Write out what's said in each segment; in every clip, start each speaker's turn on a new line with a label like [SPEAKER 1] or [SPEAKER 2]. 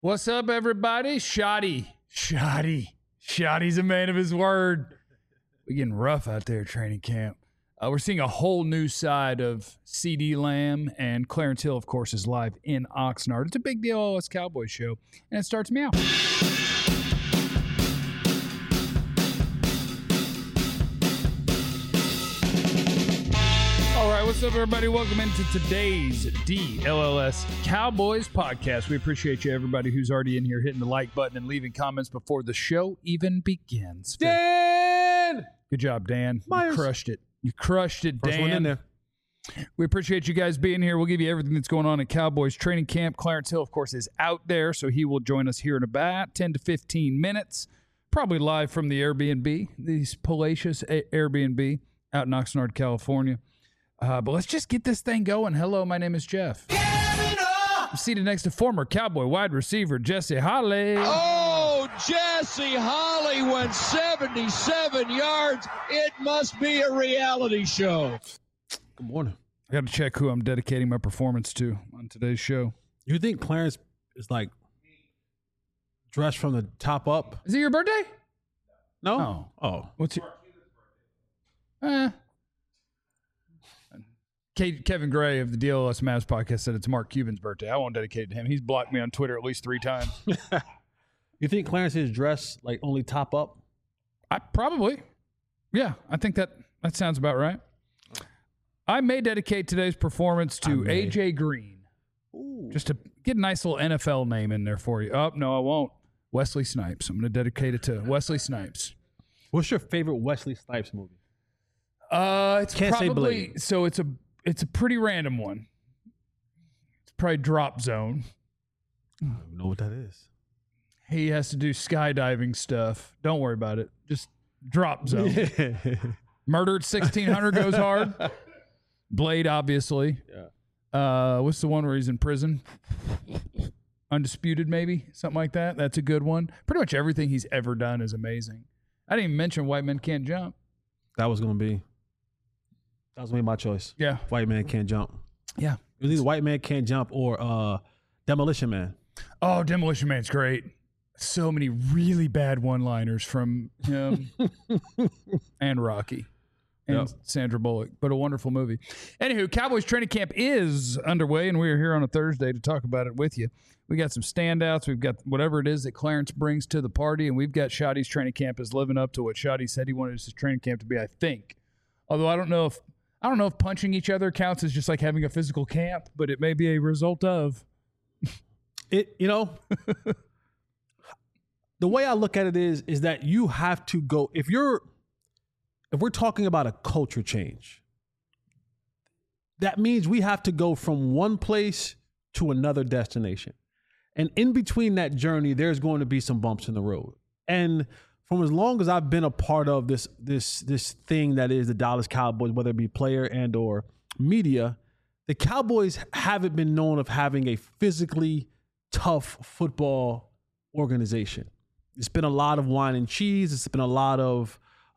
[SPEAKER 1] What's up, everybody? Shoddy's a man of his word. We're getting rough out there at training camp. We're seeing a whole new side of CeeDee Lamb, and Clarence Hill, of course, is live in Oxnard. It's a big deal, LS Cowboys show, and it starts meow. All right, what's up, everybody? Welcome into today's DLLS Cowboys podcast. We appreciate you, everybody who's already in here hitting the like button and leaving comments before the show even begins.
[SPEAKER 2] Dan!
[SPEAKER 1] Good job, Dan.
[SPEAKER 2] Myers.
[SPEAKER 1] You crushed it, Dan.
[SPEAKER 2] First one in there.
[SPEAKER 1] We appreciate you guys being here. We'll give you everything that's going on at Cowboys training camp. Clarence Hill, of course, is out there, so he will join us here in about 10 to 15 minutes, probably live from the Airbnb, these palatial Airbnb out in Oxnard, California. But let's just get this thing going. Hello, my name is Jeff. I'm seated next to former Cowboy wide receiver Jesse Holley.
[SPEAKER 3] Oh, Jesse Holley went 77 yards. It must be a reality show.
[SPEAKER 2] Good morning.
[SPEAKER 1] I got to check who I'm dedicating my performance to on today's show.
[SPEAKER 2] You think Clarence is like dressed from the top up?
[SPEAKER 1] Is it your birthday?
[SPEAKER 2] No.
[SPEAKER 1] Oh.
[SPEAKER 2] Oh.
[SPEAKER 1] What's your... Kevin Gray of the DLS Mavs podcast said it's Mark Cuban's birthday. I won't dedicate it to him. He's blocked me on Twitter at least 3 times.
[SPEAKER 2] You think Clarence is dressed like only top up?
[SPEAKER 1] Probably. Yeah, I think that sounds about right. I may dedicate today's performance to AJ Green.
[SPEAKER 2] Ooh.
[SPEAKER 1] Just to get a nice little NFL name in there for you. Oh, no, I won't. Wesley Snipes. I'm going to dedicate it to Wesley Snipes.
[SPEAKER 2] What's your favorite Wesley Snipes movie?
[SPEAKER 1] It's
[SPEAKER 2] Can't say
[SPEAKER 1] probably
[SPEAKER 2] Blade.
[SPEAKER 1] So it's a pretty random one. It's probably Drop Zone.
[SPEAKER 2] I don't even know what that is.
[SPEAKER 1] He has to do skydiving stuff. Don't worry about it. Just Drop Zone. Murder at 1600 goes hard. Blade, obviously.
[SPEAKER 2] Yeah.
[SPEAKER 1] What's the one where he's in prison? Undisputed, maybe? Something like that. That's a good one. Pretty much everything he's ever done is amazing. I didn't even mention White Men Can't Jump.
[SPEAKER 2] That was going to be my choice.
[SPEAKER 1] Yeah.
[SPEAKER 2] White Man Can't Jump.
[SPEAKER 1] Yeah.
[SPEAKER 2] It was either White Man Can't Jump or Demolition Man.
[SPEAKER 1] Oh, Demolition Man's great. So many really bad one-liners from him and Rocky and Sandra Bullock, but a wonderful movie. Anywho, Cowboys training camp is underway, and we are here on a Thursday to talk about it with you. We got some standouts. We've got whatever it is that Clarence brings to the party, and we've got Shoddy's training camp is living up to what Shoddy said he wanted his training camp to be, I think. Although I don't know if punching each other counts as just like having a physical camp, but it may be a result of.
[SPEAKER 2] The way I look at it is that you have to go, if we're talking about a culture change, that means we have to go from one place to another destination. And in between that journey, there's going to be some bumps in the road. And from as long as I've been a part of this thing that is the Dallas Cowboys, whether it be player and or media, the Cowboys haven't been known of having a physically tough football organization. It's been a lot of wine and cheese. It's been a lot of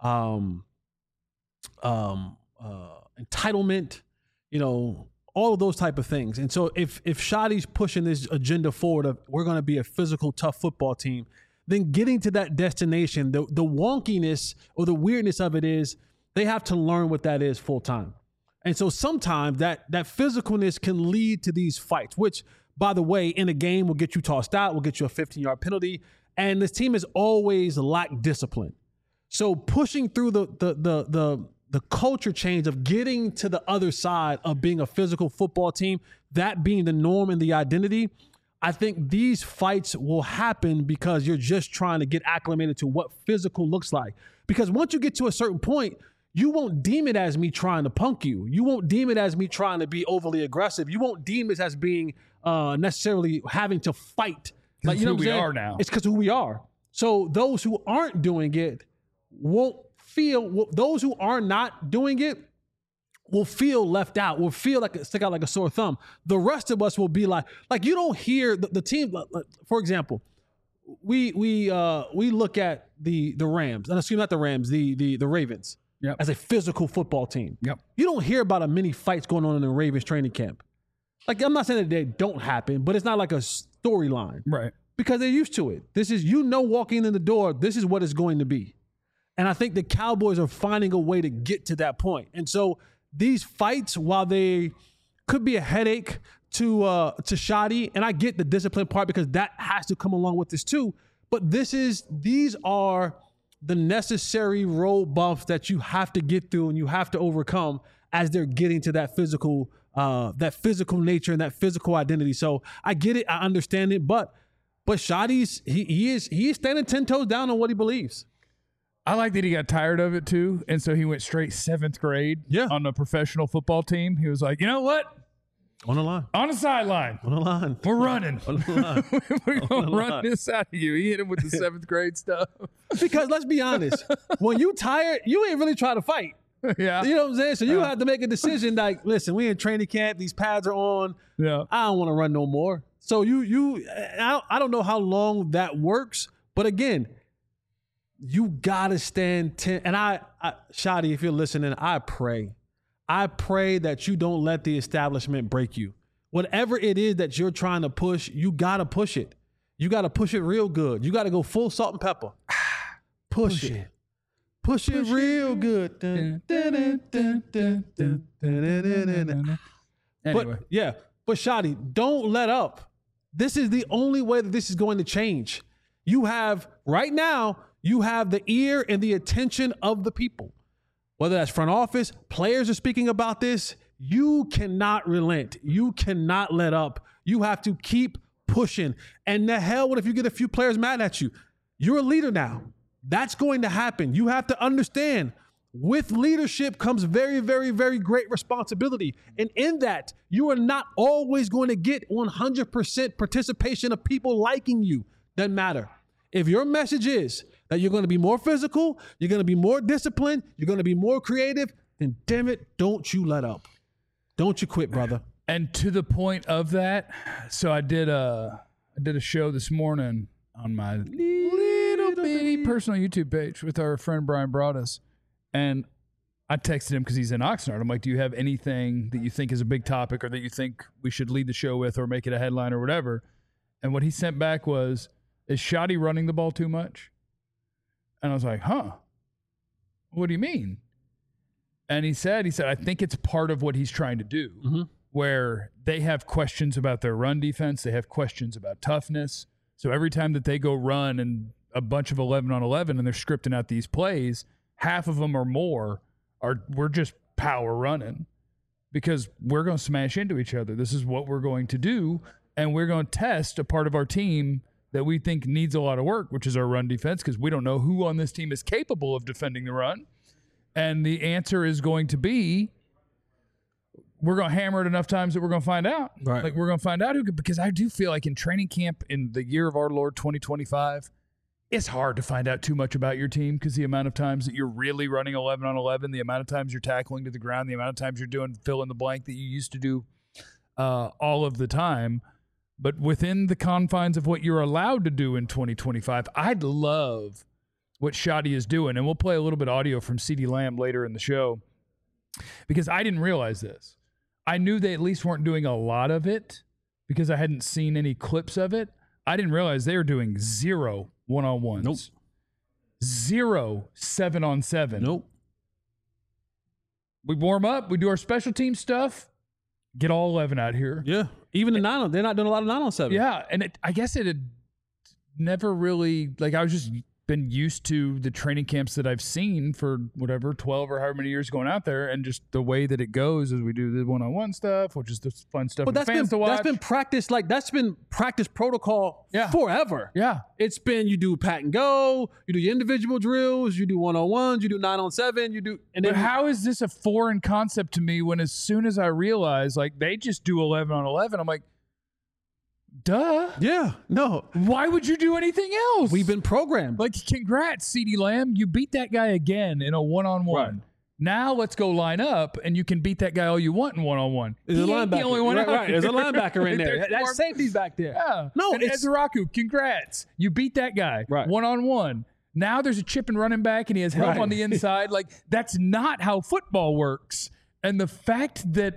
[SPEAKER 2] entitlement, all of those type of things. And so if Shoddy's pushing this agenda forward of we're going to be a physical, tough football team, then getting to that destination, the wonkiness or the weirdness of it is they have to learn what that is full time. And so sometimes that physicalness can lead to these fights, which, by the way, in a game will get you tossed out, will get you a 15-yard penalty. And this team has always lacked discipline. So pushing through the culture change of getting to the other side of being a physical football team, that being the norm and the identity, I think these fights will happen because you're just trying to get acclimated to what physical looks like. Because once you get to a certain point, you won't deem it as me trying to punk you. You won't deem it as me trying to be overly aggressive. You won't deem it as being necessarily having to fight.
[SPEAKER 1] Like, you know, we are now.
[SPEAKER 2] It's because of who we are. So those who aren't doing it won't feel, those who are not doing it will feel left out, will feel like stick out like a sore thumb. The rest of us will be like you don't hear the team. For example, we look at the Rams, and excuse me, not the Rams, the Ravens, as a physical football team.
[SPEAKER 1] Yep.
[SPEAKER 2] You don't hear about many fights going on in the Ravens training camp. Like, I'm not saying that they don't happen, but it's not like a storyline.
[SPEAKER 1] Right.
[SPEAKER 2] because they're used to it. This is, walking in the door, this is what it's going to be. And I think the Cowboys are finding a way to get to that point. And so these fights, while they could be a headache to Shadi, and I get the discipline part because that has to come along with this too, but these are the necessary road bumps that you have to get through and you have to overcome as they're getting to that physical nature and that physical identity. So I get it, I understand it, but Shadi's he is standing 10 toes down on what he believes.
[SPEAKER 1] I like that he got tired of it too, and so he went straight 7th grade on a professional football team. He was like, you know what?
[SPEAKER 2] On the line.
[SPEAKER 1] On the sideline.
[SPEAKER 2] On the line.
[SPEAKER 1] We're running.
[SPEAKER 2] On the line.
[SPEAKER 1] We're going to run this out of you. He hit him with the 7th grade stuff.
[SPEAKER 2] Because let's be honest, when you tired, you ain't really trying to fight.
[SPEAKER 1] Yeah.
[SPEAKER 2] You know what I'm saying? So you have to make a decision like, listen, we in training camp. These pads are on.
[SPEAKER 1] Yeah.
[SPEAKER 2] I don't want to run no more. So I don't know how long that works. But again, you got to stand 10. And Shadi, if you're listening, I pray that you don't let the establishment break you. Whatever it is that you're trying to push, you got to push it. You got to push it real good. You got to go full salt and pepper. Push it. Push it real good.
[SPEAKER 1] Anyway.
[SPEAKER 2] But Shadi, don't let up. This is the only way that this is going to change. Right now, you have the ear and the attention of the people. Whether that's front office, players are speaking about this. You cannot relent. You cannot let up. You have to keep pushing. And the hell, what if you get a few players mad at you? You're a leader now. That's going to happen. You have to understand, with leadership comes very, very, very great responsibility. And in that, you are not always going to get 100% participation of people liking you. Doesn't matter. If your message is that you're going to be more physical, you're going to be more disciplined, you're going to be more creative, then damn it, don't you let up. Don't you quit, brother.
[SPEAKER 1] And to the point of that, so I did a show this morning on my little bitty personal YouTube page with our friend Brian Broaddus. And I texted him because he's in Oxnard. I'm like, do you have anything that you think is a big topic or that you think we should lead the show with or make it a headline or whatever? And what he sent back was, is Shadi running the ball too much? And I was like, what do you mean? And he said, I think it's part of what he's trying to do, where they have questions about their run defense. They have questions about toughness. So every time that they go run and a bunch of 11-on-11 and they're scripting out these plays, half of them or more we're just power running because we're going to smash into each other. This is what we're going to do. And we're going to test a part of our team that we think needs a lot of work, which is our run defense, because we don't know who on this team is capable of defending the run. And the answer is going to be, we're going to hammer it enough times that we're going to find out.
[SPEAKER 2] Right.
[SPEAKER 1] Like, we're going to find out who could, because I do feel like in training camp in the year of our Lord 2025, it's hard to find out too much about your team because the amount of times that you're really running 11-on-11, the amount of times you're tackling to the ground, the amount of times you're doing fill in the blank that you used to do all of the time. But within the confines of what you're allowed to do in 2025, I'd love what Shadi is doing. And we'll play a little bit of audio from CeeDee Lamb later in the show because I didn't realize this. I knew they at least weren't doing a lot of it because I hadn't seen any clips of it. I didn't realize they were doing 0 1-on-1s.
[SPEAKER 2] Nope.
[SPEAKER 1] 0 7-on-7.
[SPEAKER 2] Nope.
[SPEAKER 1] We warm up. We do our special team stuff. Get all 11 out here.
[SPEAKER 2] Yeah. Even the 9-on, they're not doing a lot of 9-on-7.
[SPEAKER 1] Yeah. And I guess it had never really, like, I was just been used to the training camps that I've seen for whatever, 12 or however many years going out there. And just the way that it goes is we do the 1-on-1 stuff, which is the fun stuff for fans to watch.
[SPEAKER 2] That's been practice, that's been practice protocol forever.
[SPEAKER 1] Yeah.
[SPEAKER 2] It's been, you do pat and go, you do your individual drills, you do 1-on-1s, you do 9-on-7,
[SPEAKER 1] But how is this a foreign concept to me when as soon as I realize, like, they just do 11-on-11, I'm like, duh.
[SPEAKER 2] Yeah. No.
[SPEAKER 1] Why would you do anything else?
[SPEAKER 2] We've been programmed.
[SPEAKER 1] Like, congrats, CeeDee Lamb. You beat that guy again in a 1-on-1.
[SPEAKER 2] Right.
[SPEAKER 1] Now let's go line up, and you can beat that guy all you want in 1-on-1.
[SPEAKER 2] There's a linebacker.
[SPEAKER 1] The only one
[SPEAKER 2] Right. There's a linebacker in there. That safety's back there.
[SPEAKER 1] Yeah.
[SPEAKER 2] No,
[SPEAKER 1] and
[SPEAKER 2] it's
[SPEAKER 1] Ezraku, congrats. You beat that guy.
[SPEAKER 2] Right.
[SPEAKER 1] 1-on-1. Now there's a chip and running back, and he has help on the inside. Like, that's not how football works. And the fact that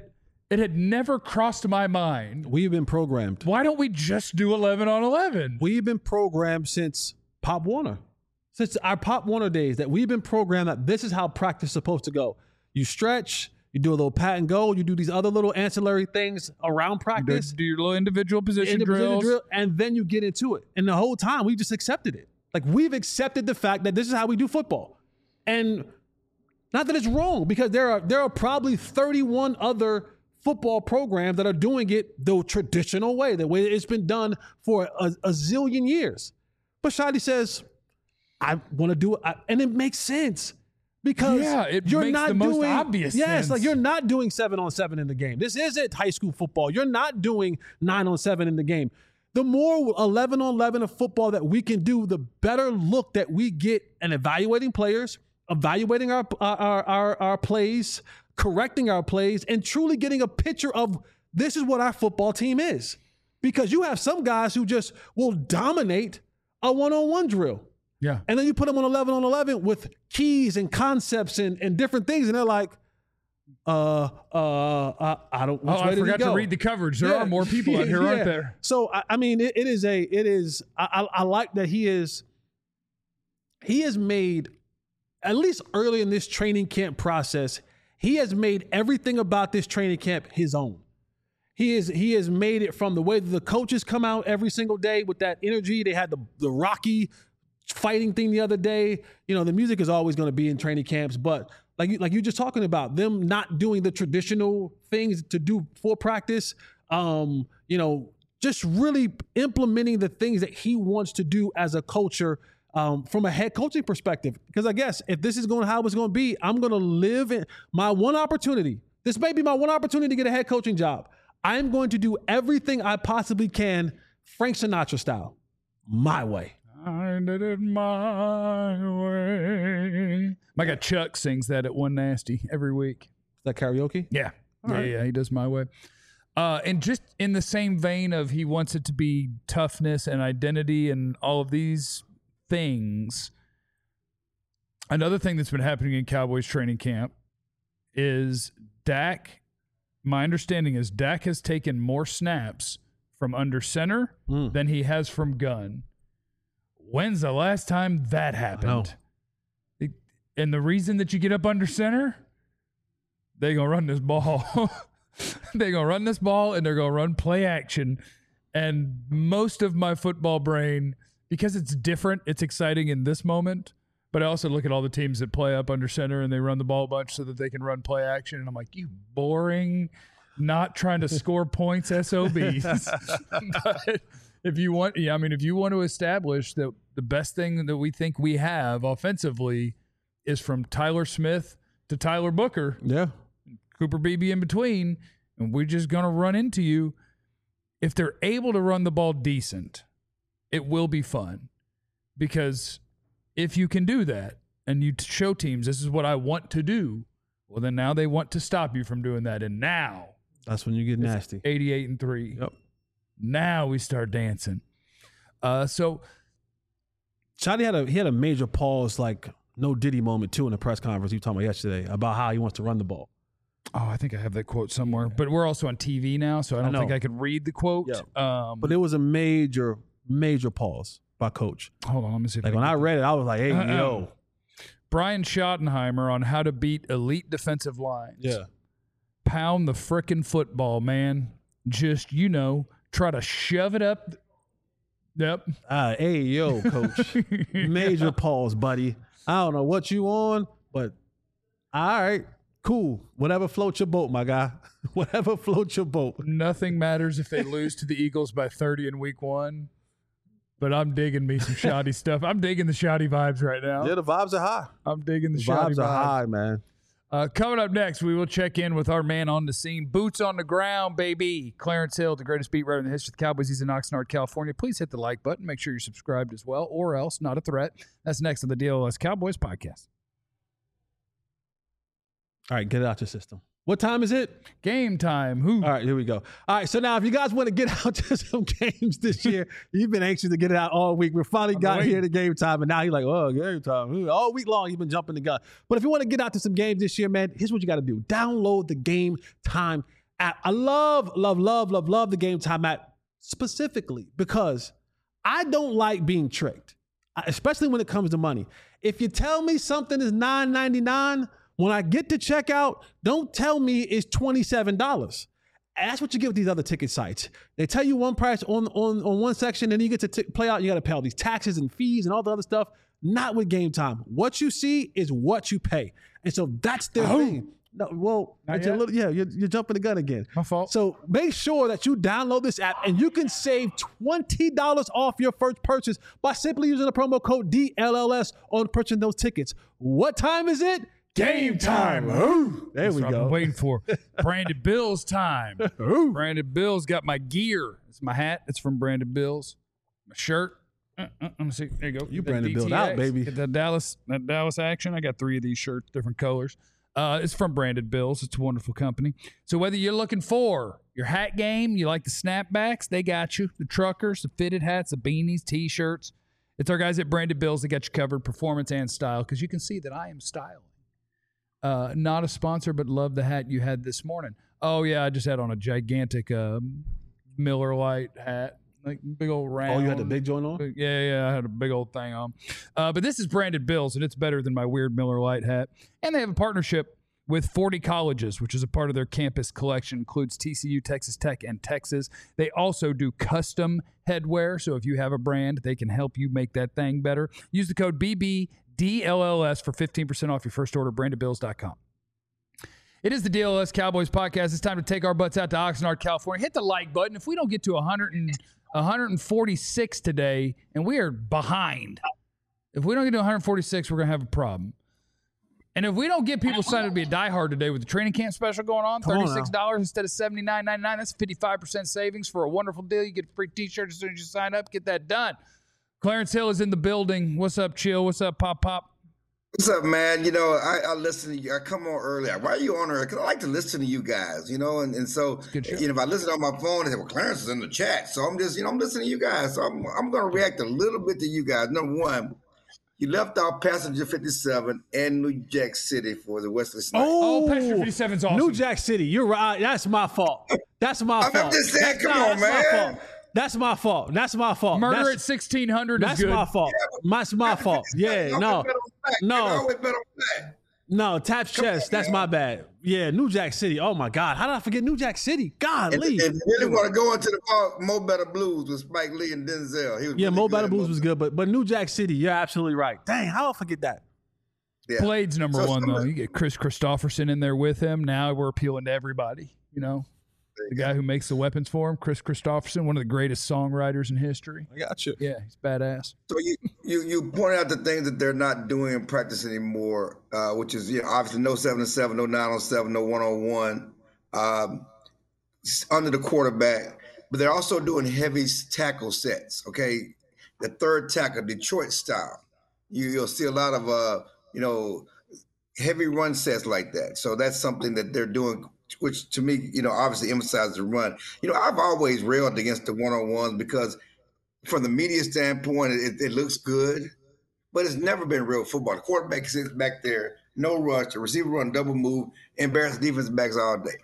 [SPEAKER 1] It had never crossed my mind.
[SPEAKER 2] We've been programmed.
[SPEAKER 1] Why don't we just do 11 on 11?
[SPEAKER 2] We've been programmed since Pop Warner. Since our Pop Warner days, that we've been programmed that this is how practice is supposed to go. You stretch, you do a little pat and go, you do these other little ancillary things around practice.
[SPEAKER 1] Do your little individual position drills.
[SPEAKER 2] And then you get into it. And the whole time, we just accepted it. Like, we've accepted the fact that this is how we do football. And not that it's wrong, because there are probably 31 other football programs that are doing it the traditional way, the way it's been done for a zillion years. But Shadi says, I want to do it. And it makes sense. Because
[SPEAKER 1] you're makes not the most
[SPEAKER 2] doing,
[SPEAKER 1] obvious
[SPEAKER 2] yes,
[SPEAKER 1] sense.
[SPEAKER 2] Like, you're not doing 7-on-7 in the game. This isn't high school football. You're not doing 9-on-7 in the game. The more 11-on-11 of football that we can do, the better look that we get in evaluating players, evaluating our plays, correcting our plays, and truly getting a picture of this is what our football team is. Because you have some guys who just will dominate a one-on-one drill.
[SPEAKER 1] Yeah.
[SPEAKER 2] And then you put them on 11-on-11 with keys and concepts and different things. And they're like, I don't know.
[SPEAKER 1] I forgot to read the coverage. There are more people out here, aren't there?
[SPEAKER 2] So, I mean, I like that he has made, at least early in this training camp process, he has made everything about this training camp his own. He has made it from the way that the coaches come out every single day with that energy. They had the Rocky fighting thing the other day. You know, the music is always going to be in training camps, but like you just talking about them not doing the traditional things to do for practice, you know, just really implementing the things that he wants to do as a culture from a head coaching perspective. Because I guess if this is how it's going to be, I'm going to live in my one opportunity. This may be my one opportunity to get a head coaching job. I'm going to do everything I possibly can, Frank Sinatra style, my way.
[SPEAKER 1] I did it my way. My guy Chuck sings that at One Nasty every week.
[SPEAKER 2] Is that karaoke?
[SPEAKER 1] Yeah.
[SPEAKER 2] Right.
[SPEAKER 1] Yeah, he does My Way. And just in the same vein of he wants it to be toughness and identity and all of these things, another thing that's been happening in Cowboys training camp is Dak, my understanding is Dak has taken more snaps from under center than he has from gun. When's the last time that happened? And the reason that you get up under center, they're going to run this ball. They're going to run this ball, and they're going to run play action. And most of my football brain, because it's different, it's exciting in this moment, but I also look at all the teams that play up under center and they run the ball a bunch so that they can run play action. And I'm like, you boring, not trying to score points SOBs. But if you want to establish that the best thing that we think we have offensively is from Tyler Smith to Tyler Booker, Cooper Beebe in between, and we're just going to run into you. If they're able to run the ball decent, it will be fun. Because if you can do that and you show teams this is what I want to do, well, then now they want to stop you from doing that. And now
[SPEAKER 2] that's when you get nasty.
[SPEAKER 1] 88-3.
[SPEAKER 2] Yep.
[SPEAKER 1] Now we start dancing. So
[SPEAKER 2] Shadi had a major pause, like no Diddy moment too in the press conference you were talking about yesterday about how he wants to run the ball.
[SPEAKER 1] Oh, I think I have that quote somewhere. But we're also on TV now, so I don't think I could read the quote.
[SPEAKER 2] Yeah. But it was a major pause by Coach.
[SPEAKER 1] Hold on, let me see.
[SPEAKER 2] Like when I read it, I was like, hey, yo.
[SPEAKER 1] Brian Schottenheimer on how to beat elite defensive lines.
[SPEAKER 2] Yeah.
[SPEAKER 1] Pound the frickin' football, man. Just, try to shove it up. Yep.
[SPEAKER 2] Hey, yo, Coach. Major pause, buddy. I don't know what you on, but all right, cool. Whatever floats your boat, my guy. Whatever floats your boat.
[SPEAKER 1] Nothing matters if they lose to the Eagles by 30 in week 1. But I'm digging me some shoddy stuff. I'm digging the shoddy vibes right now.
[SPEAKER 2] Yeah, the vibes are high.
[SPEAKER 1] I'm digging the shoddy vibes.
[SPEAKER 2] Vibes are high, man.
[SPEAKER 1] Coming up next, we will check in with our man on the scene. Boots on the ground, baby. Clarence Hill, the greatest beat writer in the history of the Cowboys. He's in Oxnard, California. Please hit the like button. Make sure you're subscribed as well, or else, not a threat. That's next on the DLS Cowboys podcast.
[SPEAKER 2] All right, get it out your system. What time is it?
[SPEAKER 1] Game time. Who?
[SPEAKER 2] All right, here we go. All right, so now if you guys want to get out to some games this year, you've been anxious to get it out all week. We finally got here to game time, and now you're like, oh, game time. All week long, you've been jumping the gun. But if you want to get out to some games this year, man, here's what you got to do. Download the Game Time app. I love the Game Time app specifically because I don't like being tricked, especially when it comes to money. If you tell me something is $9.99, when I get to checkout, don't tell me it's $27. And that's what you get with these other ticket sites. They tell you one price on one section, and then you get to play out, you got to pay all these taxes and fees and all the other stuff. Not with Game Time. What you see is what you pay. And so that's their thing. No, well, you're jumping the gun again.
[SPEAKER 1] My fault.
[SPEAKER 2] So make sure that you download this app, and you can save $20 off your first purchase by simply using the promo code DLLS on purchasing those tickets. What time is it? Game time. Ooh, there we go.
[SPEAKER 1] I've been waiting for Branded Bills time. Branded Bills got my gear. It's my hat. It's from Branded Bills. My shirt. Let me see. There you go.
[SPEAKER 2] You Branded Bills out, baby.
[SPEAKER 1] Get that Dallas action. I got 3 of these shirts, different colors. It's from Branded Bills. It's a wonderful company. So whether you're looking for your hat game, you like the snapbacks, they got you. The truckers, the fitted hats, the beanies, T-shirts. It's our guys at Branded Bills that got you covered, performance and style, because you can see that I am styling. Not a sponsor, but love the hat you had this morning. Oh, yeah, I just had on a gigantic Miller Lite hat. Like big old round.
[SPEAKER 2] Oh, you had the big joint on?
[SPEAKER 1] Yeah, I had a big old thing on. But this is Branded Bills, and it's better than my weird Miller Lite hat. And they have a partnership with 40 colleges, which is a part of their campus collection. Includes TCU, Texas Tech, and Texas. They also do custom headwear, so if you have a brand, they can help you make that thing better. Use the code BBDLLS for 15% off your first order, brandedbills.com. It is the DLS Cowboys podcast. It's time to take our butts out to Oxnard, California. Hit the like button. If we don't get to 146 today, and we are behind. If we don't get to 146, we're going to have a problem. And if we don't get people signed up to be a diehard today with the training camp special going on, $36 instead of $79.99, that's 55% savings for a wonderful deal. You get a free T-shirt as soon as you sign up. Get that done. Clarence Hill is in the building. What's up, Chill? What's up, Pop?
[SPEAKER 4] What's up, man? You know, I listen to you. I come on early. Why are you on early? Because I like to listen to you guys, you know, and so, you know, if I listen on my phone and say, well, Clarence is in the chat. So I'm just, you know, I'm listening to you guys. So I'm going to react a little bit to you guys. Number one, you left off Passenger 57 and New Jack City for the Wesley Snipes.
[SPEAKER 1] Oh, Passenger 57's awesome.
[SPEAKER 2] New Jack City. You're right. That's my fault. That's my fault.
[SPEAKER 4] I'm just saying, come on, man.
[SPEAKER 2] That's my fault.
[SPEAKER 1] Murder at 1600 is good.
[SPEAKER 2] That's my fault. That's my fault. Yeah, no. Taps chest. That's my bad. Yeah, New Jack City. Oh, my God. How did I forget New Jack City? Golly.
[SPEAKER 4] If you really want to go into the Mo Better Blues with Spike Lee and Denzel.
[SPEAKER 2] Mo Better Blues was good, but New Jack City, you're absolutely right. Dang, how did I forget that?
[SPEAKER 1] Yeah. Blade's number one, though. You get Chris Christopherson in there with him. Now we're appealing to everybody, you know. The guy who makes the weapons for him, Chris Christopherson, one of the greatest songwriters in history.
[SPEAKER 2] I got you.
[SPEAKER 1] Yeah, he's badass.
[SPEAKER 4] So you point out the things that they're not doing in practice anymore, which is, you know, obviously no 7-on-7, no 9-on-7, no 1-on-1 under the quarterback. But they're also doing heavy tackle sets. Okay, the third tackle, Detroit style. You'll see a lot of heavy run sets like that. So that's something that they're doing, which to me, you know, obviously emphasizes the run. You know, I've always railed against the 1-on-1s because from the media standpoint, it looks good, but it's never been real football. The quarterback sits back there, no rush, the receiver run double move, embarrass defensive backs all day.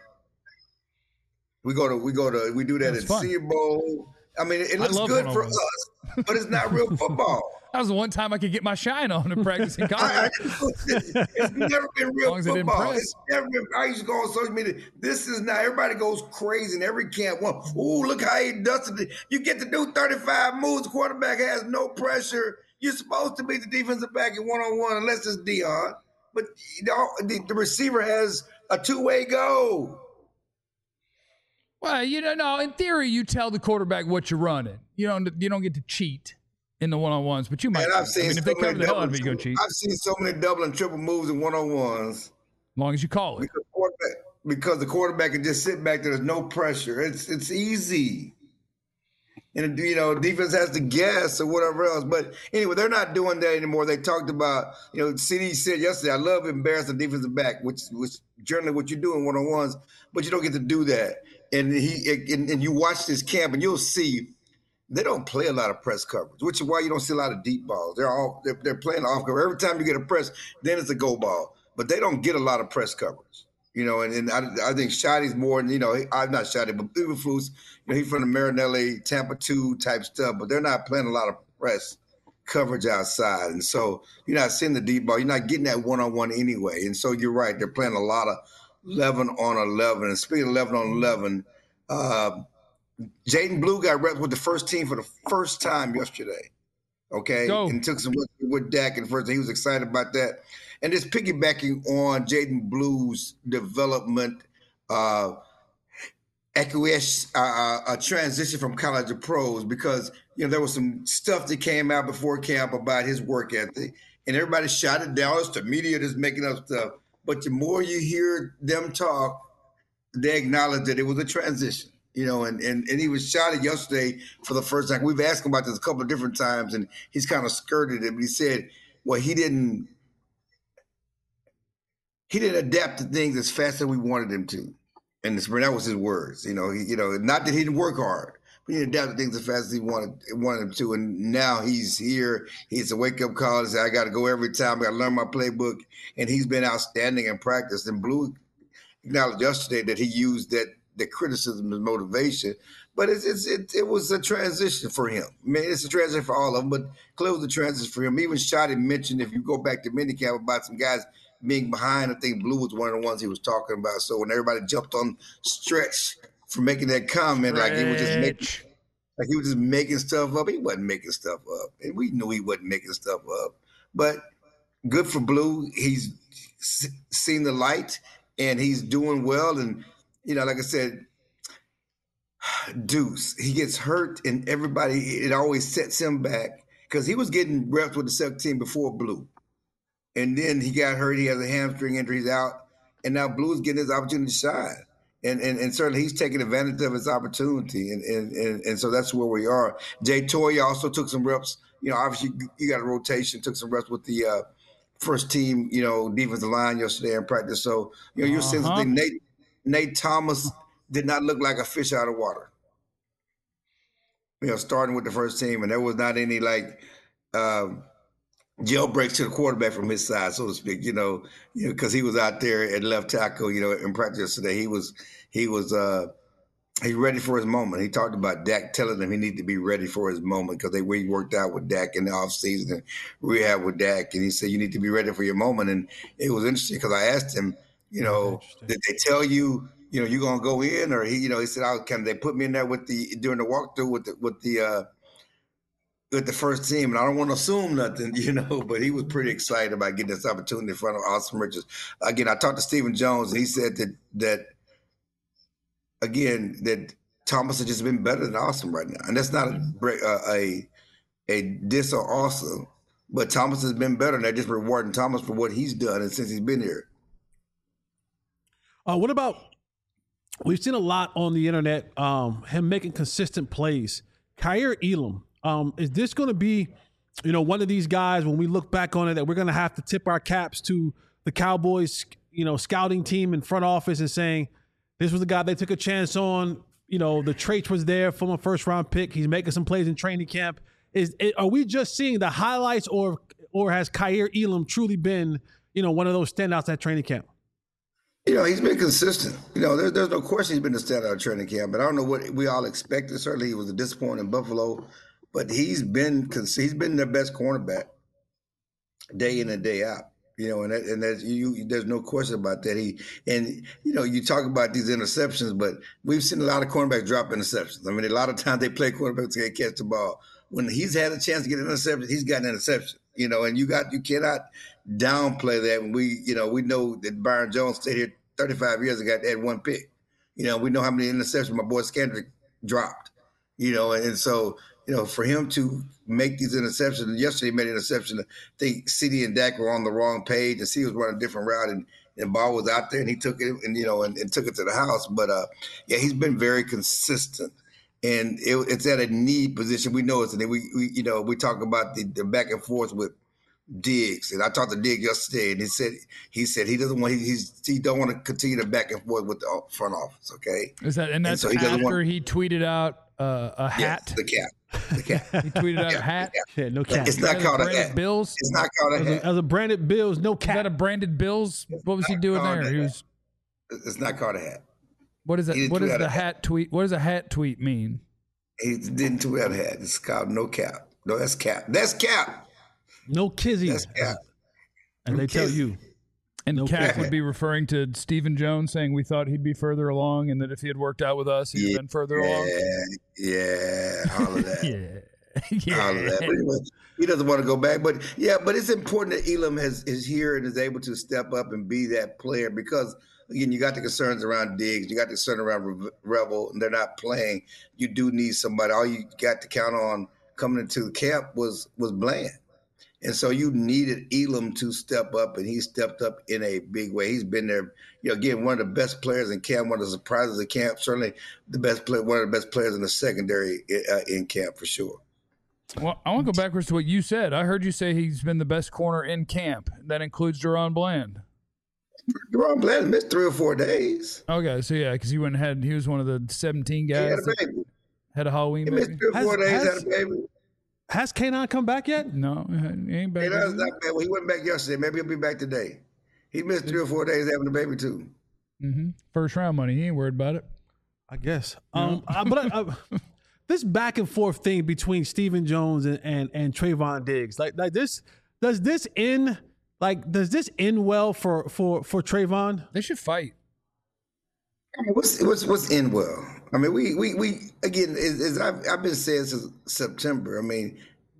[SPEAKER 4] We do that at Senior Bowl. I mean, it looks good for us, but it's not real football.
[SPEAKER 1] That was the one time I could get my shine on in practicing college.
[SPEAKER 4] It's never been real football. It's never been. I used to go on social media. This is not. Everybody goes crazy in every camp. Ooh, look how he dusted it. You get to do 35 moves. The quarterback has no pressure. You're supposed to be the defensive back in 1-on-1 unless it's Dion. But the receiver has a two-way go.
[SPEAKER 1] Well, you know, no. In theory, you tell the quarterback what you're running. You don't get to cheat in the 1-on-1s, but you might.
[SPEAKER 4] And I've seen
[SPEAKER 1] if they cover the hell out of it, you go cheat.
[SPEAKER 4] I've seen so many double and triple moves in 1-on-1s.
[SPEAKER 1] As long as you call it.
[SPEAKER 4] Because the quarterback can just sit back there. There's no pressure. It's easy. And, you know, defense has to guess or whatever else. But anyway, they're not doing that anymore. They talked about, you know, CD said yesterday, I love embarrassing defensive back, which generally what you do in 1-on-1s, but you don't get to do that. And you watch this camp and you'll see they don't play a lot of press coverage, which is why you don't see a lot of deep balls. They're playing off cover. Every time you get a press, then it's a go ball. But they don't get a lot of press coverage. You know, and I think Shotty's more than, I'm not Shotty, but Eberflus, he's from the Marinelli, Tampa 2 type stuff, but they're not playing a lot of press coverage outside. And so you're not seeing the deep ball. You're not getting that one-on-one anyway. And so you're right. They're playing a lot of 11 on 11. And speaking of 11 on 11, Jaden Blue got reps with the first team for the first time yesterday. Okay.
[SPEAKER 1] Go.
[SPEAKER 4] And took some reps with Dak in the first. He was excited about that. And just piggybacking on Jaden Blue's development, a transition from college to pros, because there was some stuff that came out before camp about his work ethic, and everybody shot it down. It's the media that's making up stuff. But the more you hear them talk, they acknowledge that it was a transition. And he was shot at yesterday for the first time. We've asked him about this a couple of different times, and he's kind of skirted it. But he said, well, he didn't adapt to things as fast as we wanted him to. And that was his words. Not that he didn't work hard, but he adapted things as fast as he wanted him to. And now he's here. He's a wake-up call and say, I got to go every time. I got to learn my playbook. And he's been outstanding in practice. And Blue acknowledged yesterday that he used the criticism as motivation. But it was a transition for him. I mean, it's a transition for all of them, but clearly it was a transition for him. Even Shotty mentioned, if you go back to minicamp, about some guys being behind. I think Blue was one of the ones he was talking about. So when everybody jumped on Stretch for making that comment, like he was just making stuff up, he wasn't making stuff up, and we knew he wasn't making stuff up. But good for Blue. He's seen the light, and he's doing well. And like I said, Deuce, he gets hurt, and it always sets him back, because he was getting reps with the second team before Blue. And then he got hurt. He has a hamstring injury. He's out. And now Blue's getting his opportunity to shine. And certainly he's taking advantage of his opportunity. And so that's where we are. Jay Toya also took some reps. Obviously you got a rotation, took some reps with the first team, defensive line yesterday in practice. So, you're seeing something. Nate Thomas did not look like a fish out of water. Starting with the first team. And there was not any jailbreaks to the quarterback from his side, so to speak, because he was out there at left tackle, in practice today. He's ready for his moment. He talked about Dak telling him he needed to be ready for his moment, because we worked out with Dak in the offseason and rehab with Dak, and he said, you need to be ready for your moment. And it was interesting, because I asked him, did they tell you, you're going to go in, or he said, they put me in there during the walkthrough with the first team, and I don't want to assume nothing, but he was pretty excited about getting this opportunity in front of Austin Richards. Again, I talked to Stephen Jones, and he said that Thomas has just been better than Austin right now. And that's not a diss or Austin, but Thomas has been better, and they're just rewarding Thomas for what he's done and since he's been here.
[SPEAKER 2] What about, we've seen a lot on the internet, him making consistent plays. Kaiir Elam. Is this going to be, one of these guys, when we look back on it, that we're going to have to tip our caps to the Cowboys, scouting team and front office, and saying this was the guy they took a chance on? The traits was there from a first round pick. He's making some plays in training camp. Are we just seeing the highlights, or has Kaiir Elam truly been, one of those standouts at training camp?
[SPEAKER 4] He's been consistent. There's no question he's been a standout at training camp, but I don't know what we all expected. Certainly he was a disappointment in Buffalo. But he's been their best cornerback day in and day out, and there's no question about that. You talk about these interceptions, but we've seen a lot of cornerbacks drop interceptions. I mean, a lot of times they play cornerbacks to catch the ball. When he's had a chance to get an interception, he's got an interception, and you cannot downplay that. And we know that Byron Jones stayed here 35 years ago, had one pick. We know how many interceptions my boy Skandrick dropped, and so. For him to make these interceptions, yesterday he made an interception. I think CD and Dak were on the wrong page, and CD was running a different route, and the ball was out there, and he took it, and took it to the house. But he's been very consistent, and it's at a need position. We know it's, and we talk about the back and forth with Diggs, and I talked to Diggs yesterday, and he said he doesn't want he don't want to continue to back and forth with the front office. Okay,
[SPEAKER 1] is that and that's after he tweeted out a hat?
[SPEAKER 4] Yes, the cap.
[SPEAKER 1] He tweeted out a hat.
[SPEAKER 2] Yeah, no cap.
[SPEAKER 4] It's not called a hat.
[SPEAKER 1] Bills.
[SPEAKER 4] It's not called a hat.
[SPEAKER 2] As a branded Bills, no cap.
[SPEAKER 1] Is that a branded Bills? What was he doing there? He was.
[SPEAKER 4] It's not called a hat.
[SPEAKER 1] What is that? What is the hat tweet? What does a hat tweet mean?
[SPEAKER 4] He didn't tweet out a hat. It's called no cap. No, that's cap. That's cap.
[SPEAKER 2] No kizzy.
[SPEAKER 4] That's cap.
[SPEAKER 2] And they tell you.
[SPEAKER 1] And
[SPEAKER 2] No
[SPEAKER 1] Cap
[SPEAKER 2] cap.
[SPEAKER 1] would be referring to Stephen Jones, saying we thought he'd be further along, and that if he had worked out with us, he'd have been further along.
[SPEAKER 4] Yeah, all of that.
[SPEAKER 1] Yeah.
[SPEAKER 4] All of that. But anyway, he doesn't want to go back. But it's important that Elam is here and is able to step up and be that player because, again, you got the concerns around Diggs, you got the concern around Revel, and they're not playing. You do need somebody. All you got to count on coming into the camp was Bland. And so you needed Elam to step up, and he stepped up in a big way. He's been there, again, one of the best players in camp, one of the surprises of camp, certainly the best player, one of the best players in the secondary in camp for sure.
[SPEAKER 1] Well, I want to go backwards to what you said. I heard you say he's been the best corner in camp. That includes DaRon Bland.
[SPEAKER 4] DaRon Bland missed 3 or 4 days.
[SPEAKER 1] Okay, so yeah, because he was one of the 17 guys.
[SPEAKER 4] He had a baby.
[SPEAKER 1] Had a Halloween
[SPEAKER 4] He
[SPEAKER 1] baby.
[SPEAKER 4] missed 3 or 4 days, had a baby.
[SPEAKER 2] Has K9 come back yet?
[SPEAKER 1] No, he ain't back.
[SPEAKER 4] K9's not bad. Well, he went back yesterday. Maybe he'll be back today. He missed 3 or 4 days having a baby too.
[SPEAKER 1] Mm-hmm. First round money. He ain't worried about it.
[SPEAKER 2] I guess. This back and forth thing between Stephen Jones and Trayvon Diggs, like this, does this end well for Trayvon?
[SPEAKER 1] They should fight.
[SPEAKER 4] I mean, what's in well? I mean, we again, as I've been saying since September. I mean,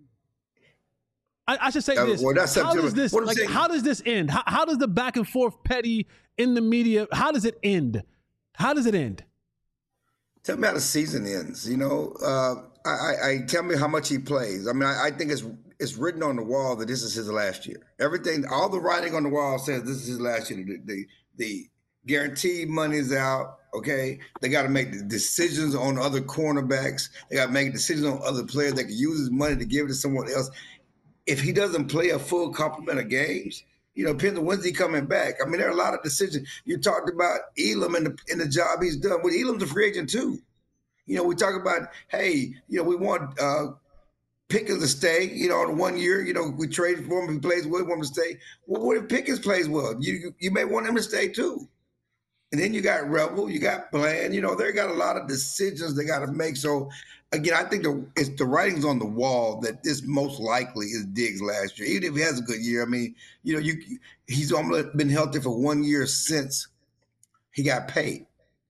[SPEAKER 2] I should say this.
[SPEAKER 4] Well, not
[SPEAKER 2] how
[SPEAKER 4] September.
[SPEAKER 2] does this how does this end? How does the back and forth petty in the media? How does it end? How does it end?
[SPEAKER 4] Tell me how the season ends. I tell me how much he plays. I mean, I think it's written on the wall that this is his last year. Everything, all the writing on the wall says this is his last year. The guaranteed money's out. Okay, they got to make the decisions on other cornerbacks. They got to make decisions on other players. They can use his money to give it to someone else. If he doesn't play a full complement of games, depends on when's he coming back. I mean, there are a lot of decisions. You talked about Elam and the job he's done. Well, Elam's a free agent too. We talk about, hey, we want Pickens to stay, in 1 year. We traded for him. If he plays well, we want him to stay. Well, what if Pickens plays well? You may want him to stay too. And then you got Revel, you got Bland. They got a lot of decisions they got to make. So, again, I think the writing's on the wall that this most likely is Diggs' last year. Even if he has a good year, I mean, he's almost been healthy for 1 year since he got paid.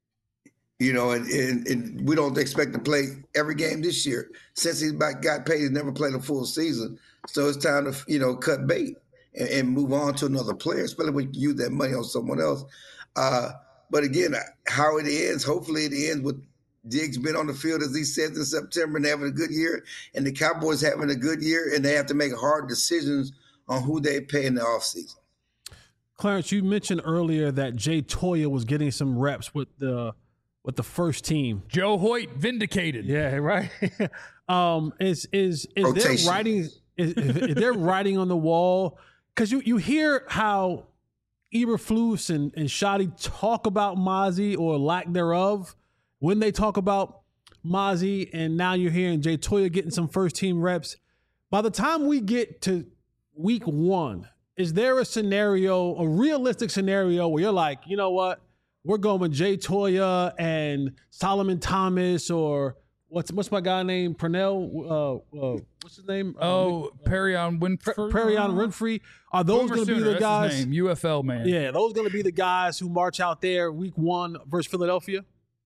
[SPEAKER 4] And we don't expect to play every game this year. Since he got paid, he's never played a full season. So it's time to, cut bait and move on to another player, especially when you use that money on someone else. But again, how it ends, hopefully it ends with Diggs being on the field, as he said in September, and having a good year, and the Cowboys having a good year, and they have to make hard decisions on who they pay in the offseason.
[SPEAKER 2] Clarence, you mentioned earlier that Jay Toya was getting some reps with the first team.
[SPEAKER 1] Joe Hoyt vindicated.
[SPEAKER 2] Yeah, right. Is there writing? Is there writing on the wall? Because you hear how Eberflus and Shotty talk about Mazi or lack thereof when they talk about Mazi, and now you're hearing Jay Toya getting some first team reps. By the time we get to week 1, is there a realistic scenario where you're like, you know what, we're going with Jay Toya and Solomon Thomas, or what's my guy named Pernell? What's his name?
[SPEAKER 1] Perion Winfrey.
[SPEAKER 2] Perion Winfrey. Are those going to be the guys?
[SPEAKER 1] That's his name, UFL man.
[SPEAKER 2] Yeah, those going to be the guys who march out there week 1 versus Philadelphia?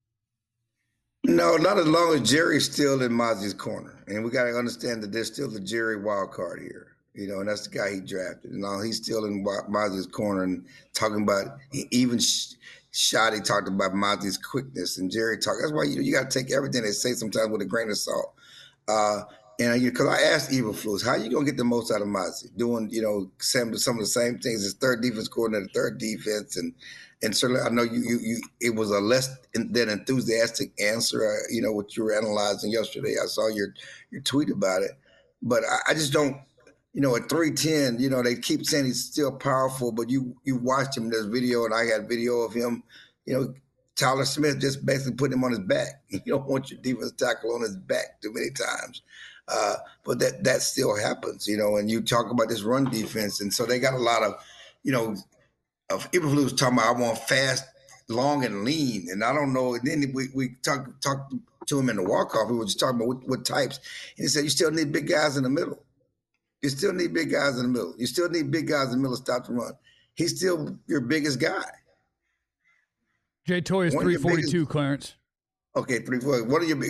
[SPEAKER 4] No, not as long as Jerry's still in Mazi's corner. And we got to understand that there's still the Jerry wild card here. And that's the guy he drafted. And now he's still in Mazi's corner and talking about, even Shotty talked about Mazi's quickness, and Jerry talked. That's why you got to take everything they say sometimes with a grain of salt. And because I asked Eberflus, how you gonna get the most out of Mazi? Doing some of the same things as third defense coordinator, third defense, and certainly I know you it was a less than enthusiastic answer. What you were analyzing yesterday. I saw your tweet about it, but I just don't. At 310, they keep saying he's still powerful, but you watched him. There's video, and I had video of him. Tyler Smith just basically putting him on his back. You don't want your defense tackle on his back too many times. But that still happens, and you talk about this run defense. And so they got a lot of, of Eberflus talking about, I want fast long and lean. And I don't know. And then we talked to him in the walk-off. We were just talking about what types. And he said, you still need big guys in the middle. You still need big guys in the middle. You still need big guys in the middle to stop the run. He's still your biggest guy.
[SPEAKER 1] Jay Toy is 342, Clarence.
[SPEAKER 4] Okay, 340. What are your big?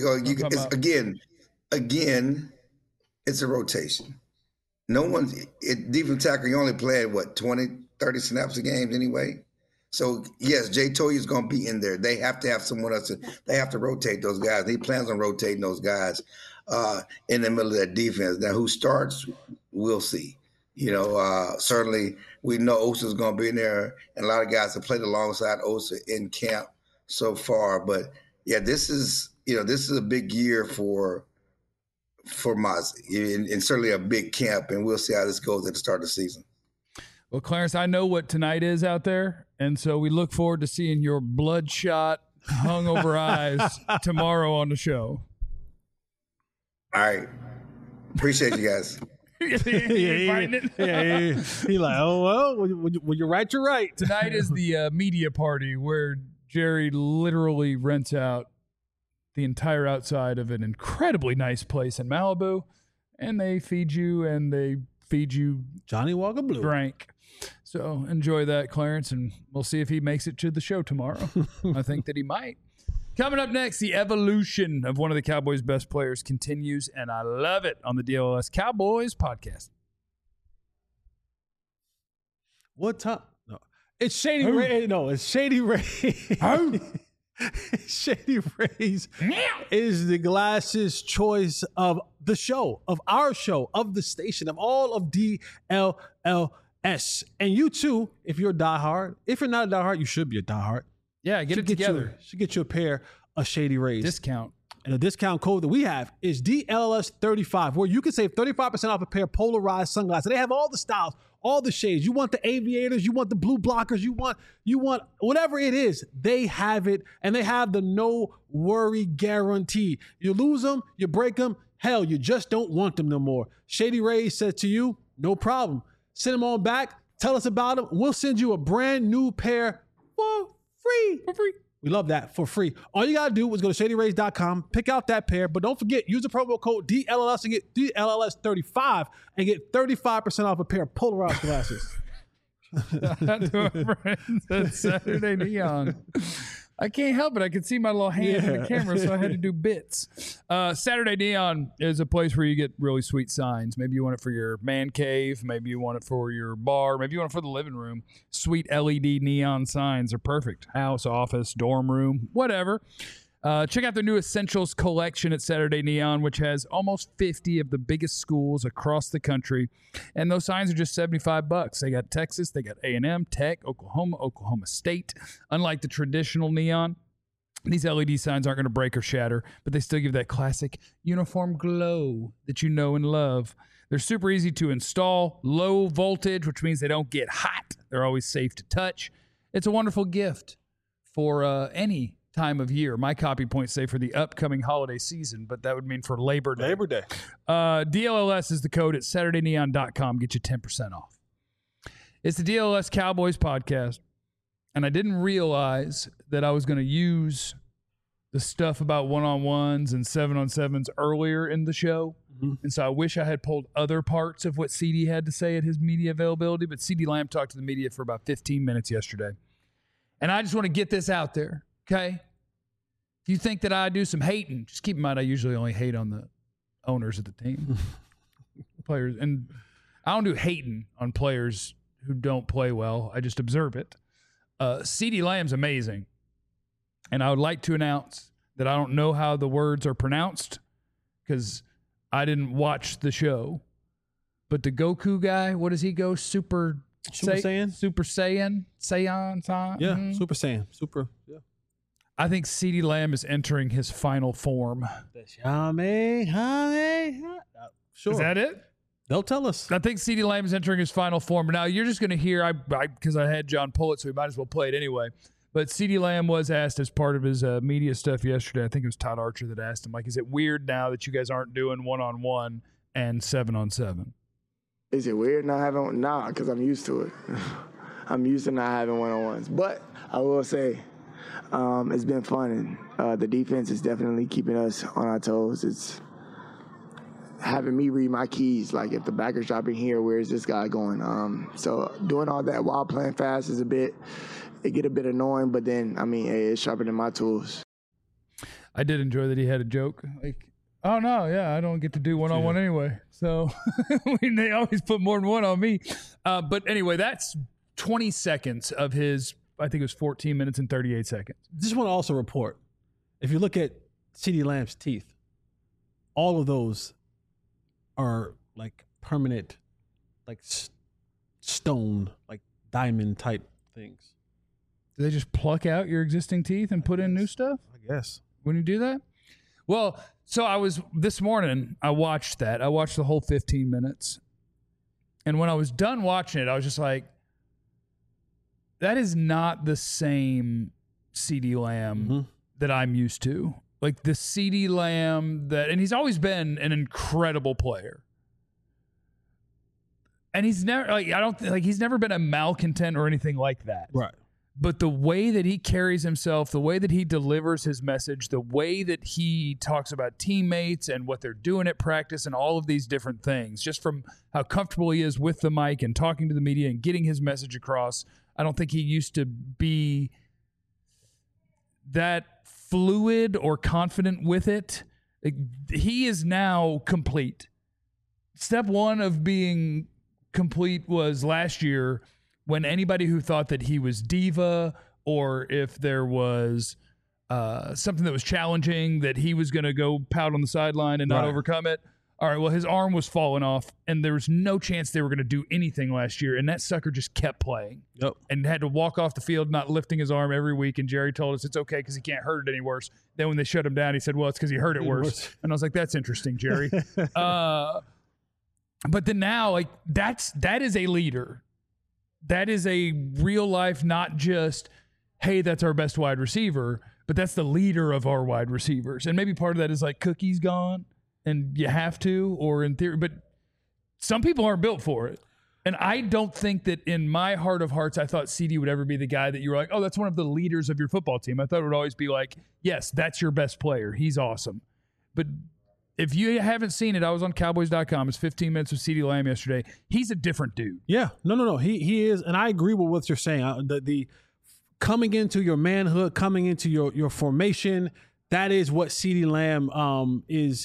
[SPEAKER 4] Again, it's a rotation. No one's defensive tackle. You only playing 20, 30 snaps a game anyway. So yes, Jay Toy is going to be in there. They have to have someone else. They have to rotate those guys. He plans on rotating those guys in the middle of that defense. Now, who starts? We'll see. Certainly we know Osa's going to be in there, and a lot of guys have played alongside Osa in camp so far. But yeah, this is a big year for Mazi, and certainly a big camp, and we'll see how this goes at the start of the season.
[SPEAKER 1] Well, Clarence, I know what tonight is out there, and so we look forward to seeing your bloodshot, hungover eyes tomorrow on the show.
[SPEAKER 4] All right. Appreciate you guys.
[SPEAKER 2] He like, oh, well, when you're right, you're right.
[SPEAKER 1] Tonight is the media party where Jerry literally rents out the entire outside of an incredibly nice place in Malibu, and they feed you
[SPEAKER 2] Johnny Walker Blue
[SPEAKER 1] drink. So enjoy that, Clarence, and we'll see if he makes it to the show tomorrow. I think that he might. Coming up next, the evolution of one of the Cowboys' best players continues, and I love it on the DLS Cowboys podcast.
[SPEAKER 2] What time? No, it's Shady Ray. No, it's Shady Ray. Shady Rays is the glasses choice of the show, of our show, of the station, of all of DLLS. And you too, if you're a diehard. If you're not a diehard, you should be a diehard.
[SPEAKER 1] Yeah, get it together.
[SPEAKER 2] Should get you a pair of Shady Rays.
[SPEAKER 1] Discount.
[SPEAKER 2] And the discount code that we have is DLS35, where you can save 35% off a pair of polarized sunglasses. They have all the styles, all the shades. You want the aviators, you want the blue blockers, you want whatever it is, they have it, and they have the no worry guarantee. You lose them, you break them, hell, you just don't want them no more. Shady Rays said to you, no problem. Send them on back, tell us about them. We'll send you a brand new pair for free. We love that, for free. All you got to do is go to ShadyRays.com, pick out that pair, but don't forget, use the promo code DLLS and get DLLS35 and get 35% off a pair of polarized glasses.
[SPEAKER 1] That's Saturday Neon. I can't help it. I can see my little hand in the camera, so I had to do bits. Saturday Neon is a place where you get really sweet signs. Maybe you want it for your man cave. Maybe you want it for your bar. Maybe you want it for the living room. Sweet LED neon signs are perfect. House, office, dorm room, whatever. Check out their new Essentials collection at Saturday Neon, which has almost 50 of the biggest schools across the country. And those signs are just $75. They got Texas, they got A&M, Tech, Oklahoma State. Unlike the traditional neon, these LED signs aren't going to break or shatter, but they still give that classic uniform glow that you know and love. They're super easy to install, low voltage, which means they don't get hot. They're always safe to touch. It's a wonderful gift for any time of year. My copy points say for the upcoming holiday season, but that would mean for Labor Day. DLLS is the code at SaturdayNeon.com. Get you 10% off. It's the DLS Cowboys podcast, and I didn't realize that I was going to use the stuff about one-on-ones and 7-on-7s earlier in the show, and so I wish I had pulled other parts of what CD had to say at his media availability, but CD Lamb talked to the media for about 15 minutes yesterday, and I just want to get this out there, okay? If you think that I do some hating, just keep in mind I usually only hate on the owners of the team, players, and I don't do hating on players who don't play well. I just observe it. CeeDee Lamb's amazing, and I would like to announce that I don't know how the words are pronounced because I didn't watch the show. But the Goku guy, what does he go? Super Saiyan? Super Saiyan? Saiyan?
[SPEAKER 2] Yeah, Super Saiyan. Yeah.
[SPEAKER 1] I think CeeDee Lamb is entering his final form.
[SPEAKER 2] Sure.
[SPEAKER 1] Is that it?
[SPEAKER 2] They'll tell us.
[SPEAKER 1] I think CeeDee Lamb is entering his final form. Now, you're just going to hear, because I had John Pullett, so we might as well play it anyway. But CeeDee Lamb was asked as part of his media stuff yesterday. I think it was Todd Archer that asked him, like, is it weird now that you guys aren't doing 1-on-1 and 7-on-7?
[SPEAKER 5] Is it weird not having? Nah, because I'm used to it. I'm used to not having 1-on-1s. But I will say, it's been fun. And the defense is definitely keeping us on our toes. It's having me read my keys, like if the backer's dropping here, where's this guy going? So doing all that while playing fast is it get a bit annoying, but then, it's sharpening my tools.
[SPEAKER 1] I did enjoy that he had a joke. Like, oh, no, yeah, I don't get to do one-on-one anyway. So they always put more than one on me. But anyway, that's 20 seconds of his, I think it was 14 minutes and 38 seconds.
[SPEAKER 2] Just want to also report, if you look at CeeDee Lamb's teeth, all of those are like permanent, like stone, like diamond type things.
[SPEAKER 1] Do they just pluck out your existing teeth and put in new stuff?
[SPEAKER 2] I guess.
[SPEAKER 1] When you do that? Well, so this morning, I watched that. I watched the whole 15 minutes. And when I was done watching it, I was just like, that is not the same CeeDee Lamb that I'm used to. Like the CeeDee Lamb and he's always been an incredible player. And he's never he's never been a malcontent or anything like that.
[SPEAKER 2] Right.
[SPEAKER 1] But the way that he carries himself, the way that he delivers his message, the way that he talks about teammates and what they're doing at practice and all of these different things, just from how comfortable he is with the mic and talking to the media and getting his message across, I don't think he used to be that fluid or confident with it. He is now complete. Step one of being complete was last year when anybody who thought that he was diva or if there was something that was challenging that he was going to go pout on the sideline and not overcome it. All right, well, his arm was falling off, and there was no chance they were going to do anything last year, and that sucker just kept playing.
[SPEAKER 2] Yep.
[SPEAKER 1] And had to walk off the field not lifting his arm every week, and Jerry told us it's okay because he can't hurt it any worse. Then when they shut him down, he said, well, it's because he hurt it worse. And I was like, that's interesting, Jerry. But then now, like, that is a leader. That is a real life, not just, hey, that's our best wide receiver, but that's the leader of our wide receivers. And maybe part of that is like Cookie's gone. And you have to, or in theory, but some people aren't built for it. And I don't think that in my heart of hearts, I thought CeeDee would ever be the guy that you were like, oh, that's one of the leaders of your football team. I thought it would always be like, yes, that's your best player. He's awesome. But if you haven't seen it, I was on Cowboys.com. It's 15 minutes with CeeDee Lamb yesterday. He's a different dude.
[SPEAKER 2] Yeah. No. He is. And I agree with what you're saying. The coming into your manhood, coming into your formation, that is what CeeDee Lamb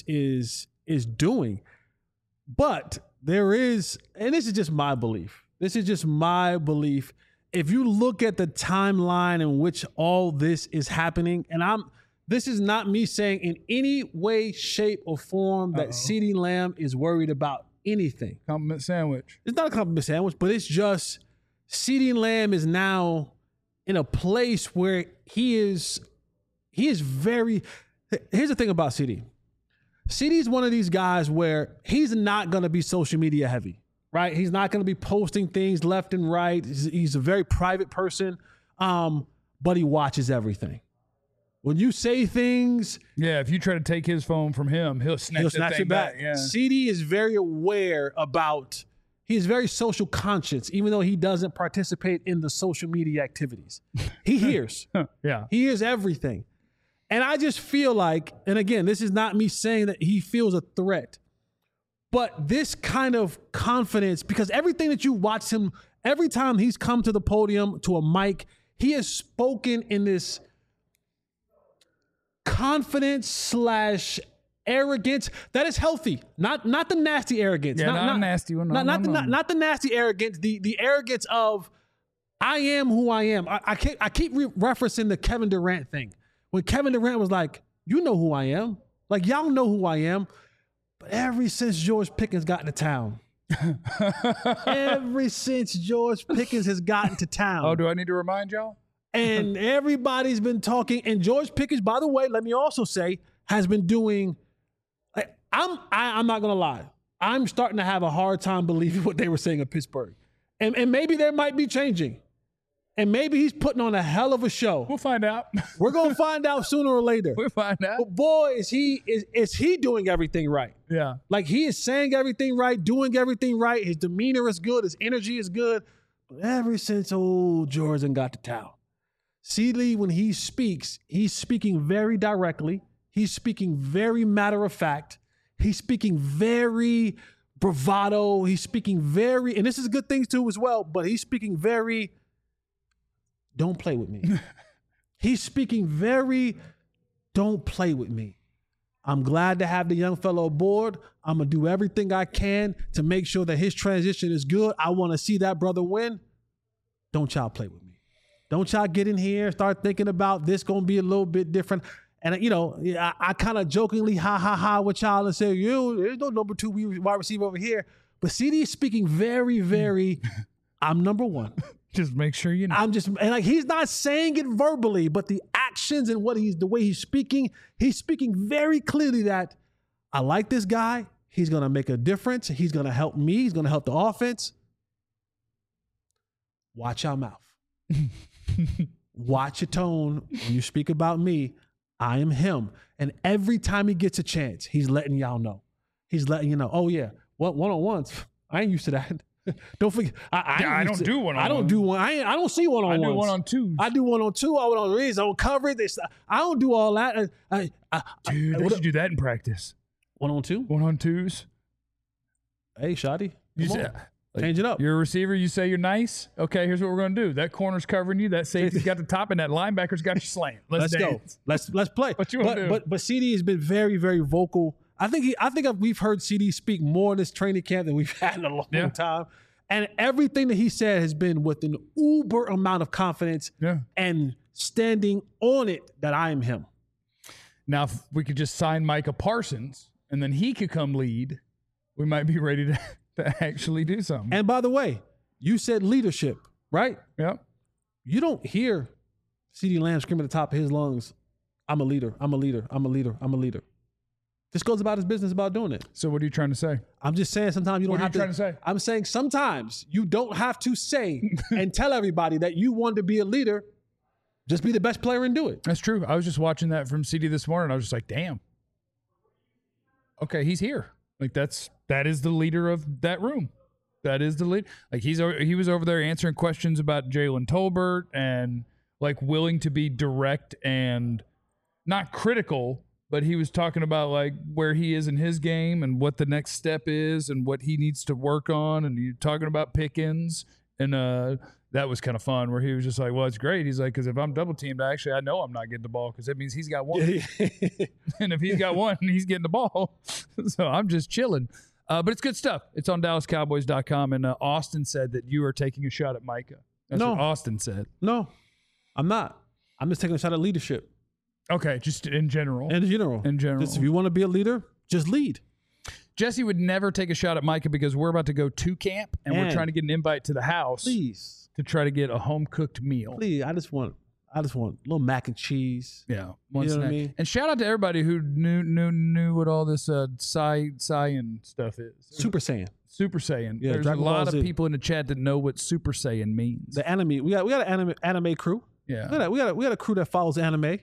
[SPEAKER 2] is doing. But there is, and this is just my belief. This is just my belief. If you look at the timeline in which all this is happening, and this is not me saying in any way, shape, or form that CeeDee Lamb is worried about anything.
[SPEAKER 1] Compliment sandwich.
[SPEAKER 2] It's not a compliment sandwich, but it's just CeeDee Lamb is now in a place where he is very. Here's the thing about CeeDee. CeeDee is one of these guys where he's not going to be social media heavy, right? He's not going to be posting things left and right. He's a very private person, but he watches everything. When you say things,
[SPEAKER 1] yeah, if you try to take his phone from him, he'll snatch it back. Yeah.
[SPEAKER 2] CeeDee is very aware about. He is very social conscious, even though he doesn't participate in the social media activities. He hears.
[SPEAKER 1] Yeah.
[SPEAKER 2] He hears everything. And I just feel like, and again, this is not me saying that he feels a threat, but this kind of confidence, because everything that you watch him, every time he's come to the podium, to a mic, he has spoken in this confidence / arrogance that is healthy, not the nasty arrogance.
[SPEAKER 1] Yeah, not a nasty one.
[SPEAKER 2] Not the nasty arrogance. The arrogance of I am who I am. I keep referencing the Kevin Durant thing. When Kevin Durant was like, you know who I am. Like, y'all know who I am. But ever since George Pickens got into town, ever since George Pickens has gotten to town.
[SPEAKER 1] Oh, do I need to remind y'all?
[SPEAKER 2] And everybody's been talking. And George Pickens, by the way, let me also say, has been doing. I'm not gonna lie. I'm starting to have a hard time believing what they were saying in Pittsburgh, and maybe they might be changing, and maybe he's putting on a hell of a show.
[SPEAKER 1] We'll find out.
[SPEAKER 2] We're gonna find out sooner or later.
[SPEAKER 1] We'll find out.
[SPEAKER 2] But boy, is he doing everything right?
[SPEAKER 1] Yeah,
[SPEAKER 2] like he is saying everything right, doing everything right. His demeanor is good. His energy is good. But ever since old Jordan got to town, CD, when he speaks, he's speaking very directly. He's speaking very matter of fact. He's speaking very bravado. He's speaking very, and this is good things too as well, but he's speaking very, don't play with me. He's speaking very, don't play with me. I'm glad to have the young fellow aboard. I'm going to do everything I can to make sure that his transition is good. I want to see that brother win. Don't y'all play with me. Don't y'all get in here and start thinking about this going to be a little bit different. And, you know, I kind of jokingly ha with y'all and say, there's no number 2 wide receiver over here. But CD is speaking very, very, I'm number 1.
[SPEAKER 1] Just make sure you know.
[SPEAKER 2] And like, he's not saying it verbally, but the actions and the way he's speaking very clearly that I like this guy. He's going to make a difference. He's going to help me. He's going to help the offense. Watch your mouth. Watch your tone when you speak about me. I am him. And every time he gets a chance, he's letting y'all know. He's letting you know, oh yeah, one-on-ones. I ain't used to that. Don't forget. I don't do one-on-ones. I don't do one. I don't see one-on-ones.
[SPEAKER 1] I do one-on-twos.
[SPEAKER 2] I do one-on-two. I on reads. I cover it. I don't do all that.
[SPEAKER 1] Dude, they should do that in practice.
[SPEAKER 2] One-on-two?
[SPEAKER 1] One-on-twos.
[SPEAKER 2] Hey, Shotty. Change it up.
[SPEAKER 1] You're a receiver. You say you're nice. Okay, here's what we're going to do. That corner's covering you. That safety's got the top, and that linebacker's got you slant. Let's
[SPEAKER 2] go. Let's play.
[SPEAKER 1] What you want to do?
[SPEAKER 2] But CD has been very, very vocal. I think we've heard CD speak more in this training camp than we've had in a long time. And everything that he said has been with an uber amount of confidence and standing on it that I am him.
[SPEAKER 1] Now, if we could just sign Micah Parsons, and then he could come lead, we might be ready to actually do something.
[SPEAKER 2] And by the way, you said leadership, right?
[SPEAKER 1] Yeah.
[SPEAKER 2] You don't hear CeeDee Lamb scream at the top of his lungs, I'm a leader, I'm a leader, I'm a leader, I'm a leader. This goes about his business about doing it.
[SPEAKER 1] So what are you trying to say?
[SPEAKER 2] I'm just saying sometimes you don't have to.
[SPEAKER 1] What are you trying to say?
[SPEAKER 2] I'm saying sometimes you don't have to say and tell everybody that you want to be a leader. Just be the best player and do it.
[SPEAKER 1] That's true. I was just watching that from CD this morning. I was just like, damn. Okay, he's here. Like that is the leader of that room. That is the lead. Like he was over there answering questions about Jalen Tolbert and like willing to be direct and not critical, but he was talking about like where he is in his game and what the next step is and what he needs to work on. And you're talking about Pickens and that was kind of fun where he was just like, well, it's great. He's like, because if I'm double teamed, I know I'm not getting the ball because that means he's got one. And if he's got one, he's getting the ball. So I'm just chilling. But it's good stuff. It's on DallasCowboys.com. And Austin said that you are taking a shot at Micah. That's what Austin said.
[SPEAKER 2] No, I'm not. I'm just taking a shot at leadership.
[SPEAKER 1] Okay, just in general.
[SPEAKER 2] In general. Just if you want to be a leader, just lead.
[SPEAKER 1] Jesse would never take a shot at Micah because we're about to go to camp and we're trying to get an invite to the house.
[SPEAKER 2] Please.
[SPEAKER 1] To try to get a home-cooked meal.
[SPEAKER 2] Please, I just want a little mac and cheese.
[SPEAKER 1] Yeah.
[SPEAKER 2] You know what I mean?
[SPEAKER 1] And shout out to everybody who knew what all this Saiyan stuff is.
[SPEAKER 2] Super Saiyan.
[SPEAKER 1] Super Saiyan.
[SPEAKER 2] Yeah,
[SPEAKER 1] There's
[SPEAKER 2] Dragon
[SPEAKER 1] a lot
[SPEAKER 2] Ball
[SPEAKER 1] of
[SPEAKER 2] Z.
[SPEAKER 1] people in the chat that know what Super Saiyan means.
[SPEAKER 2] The anime. We got an anime crew.
[SPEAKER 1] Yeah.
[SPEAKER 2] We got a crew that follows anime.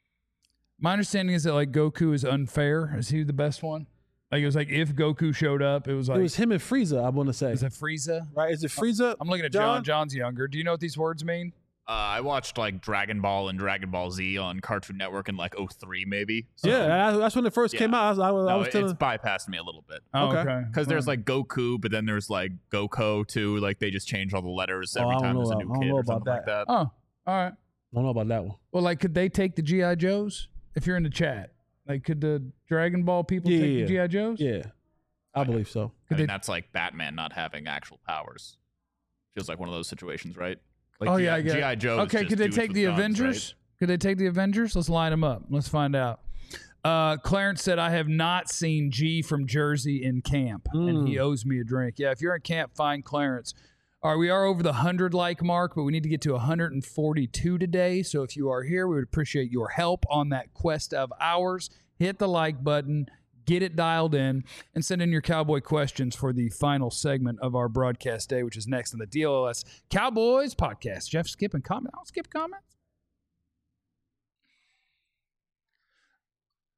[SPEAKER 1] My understanding is that like Goku is unfair. Is he the best one? Like it was like if Goku showed up, it was
[SPEAKER 2] him and Frieza, I want to say.
[SPEAKER 1] Is it Frieza?
[SPEAKER 2] Right? Is it Frieza?
[SPEAKER 1] I'm looking at John. John's younger. Do you know what these words mean?
[SPEAKER 6] I watched like Dragon Ball and Dragon Ball Z on Cartoon Network in like 2003 maybe. So,
[SPEAKER 2] yeah, that's when it first came out. I was
[SPEAKER 6] it's bypassed me a little bit.
[SPEAKER 1] Oh, okay.
[SPEAKER 6] Because there's like Goku, but then there's like Goko too. Like they just change all the letters every time there's a new kid or something like that.
[SPEAKER 1] Oh, all right.
[SPEAKER 2] I don't know about that one.
[SPEAKER 1] Well, like could they take the G.I. Joes? If you're in the chat, like could the Dragon Ball people take the G.I. Joes?
[SPEAKER 2] Yeah. I believe so.
[SPEAKER 6] I mean, that's like Batman not having actual powers. Feels like one of those situations, right? Like
[SPEAKER 1] I get
[SPEAKER 6] G.I. Joe.
[SPEAKER 1] Okay, could they take the Avengers? Right? Could they take the Avengers? Let's line them up. Let's find out. Clarence said, I have not seen G from Jersey in camp, and he owes me a drink. Yeah, if you're in camp, find Clarence. All right, we are over the 100 like mark, but we need to get to 142 today. So if you are here, we would appreciate your help on that quest of ours. Hit the like button. Get it dialed in and send in your Cowboy questions for the final segment of our broadcast day, which is next on the DLS Cowboys podcast. Jeff, skipping comment. I'll skip comments.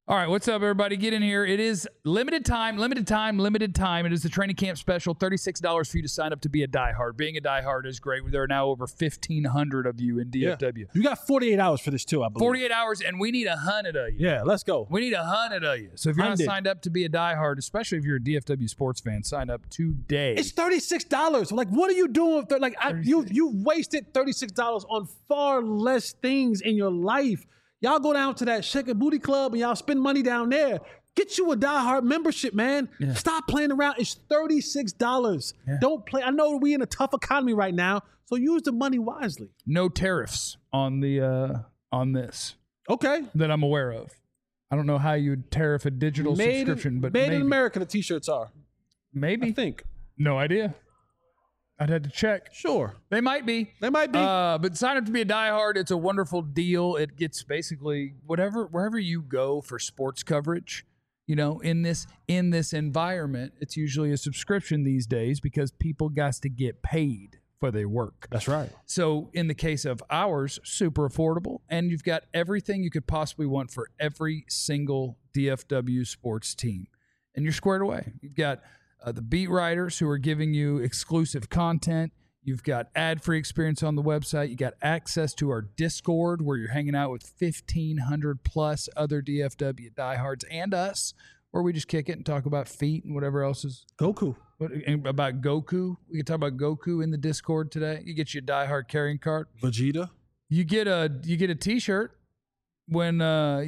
[SPEAKER 1] All right, what's up, everybody? Get in here. It is limited time. It is the training camp special, $36 for you to sign up to be a diehard. Being a diehard is great. There are now over 1,500 of you in DFW.
[SPEAKER 2] Yeah. You got 48 hours for this, too, I believe.
[SPEAKER 1] 48 hours, and we need 100 of you.
[SPEAKER 2] Yeah, let's go.
[SPEAKER 1] We need 100 of you. So if you're not signed up to be a diehard, especially if you're a DFW sports fan, sign up today.
[SPEAKER 2] It's $36. Like, what are you doing? You wasted $36 on far less things in your life. Y'all go down to that Shake a Booty Club and y'all spend money down there. Get you a diehard membership, man. Yeah. Stop playing around. It's $36. Yeah. Don't play. I know we in a tough economy right now, so use the money wisely.
[SPEAKER 1] No tariffs on the on this.
[SPEAKER 2] Okay.
[SPEAKER 1] That I'm aware of. I don't know how you'd tariff a digital subscription, but
[SPEAKER 2] made in America, the T-shirts are.
[SPEAKER 1] Maybe.
[SPEAKER 2] I think.
[SPEAKER 1] No idea. I'd have to check.
[SPEAKER 2] Sure.
[SPEAKER 1] They might be. But sign up to be a diehard. It's a wonderful deal. It gets basically wherever you go for sports coverage, in this environment, it's usually a subscription these days because people got to get paid for their work.
[SPEAKER 2] That's right.
[SPEAKER 1] So in the case of ours, super affordable, and you've got everything you could possibly want for every single DFW sports team. And you're squared away. You've got the beat writers who are giving you exclusive content. You've got ad-free experience on the website. You got access to our Discord where you're hanging out with 1,500 plus other DFW diehards and us, where we just kick it and talk about feet and whatever else is
[SPEAKER 2] Goku.
[SPEAKER 1] About Goku. We can talk about Goku in the Discord today. You get your diehard carrying card.
[SPEAKER 2] Vegeta.
[SPEAKER 1] You get a T-shirt when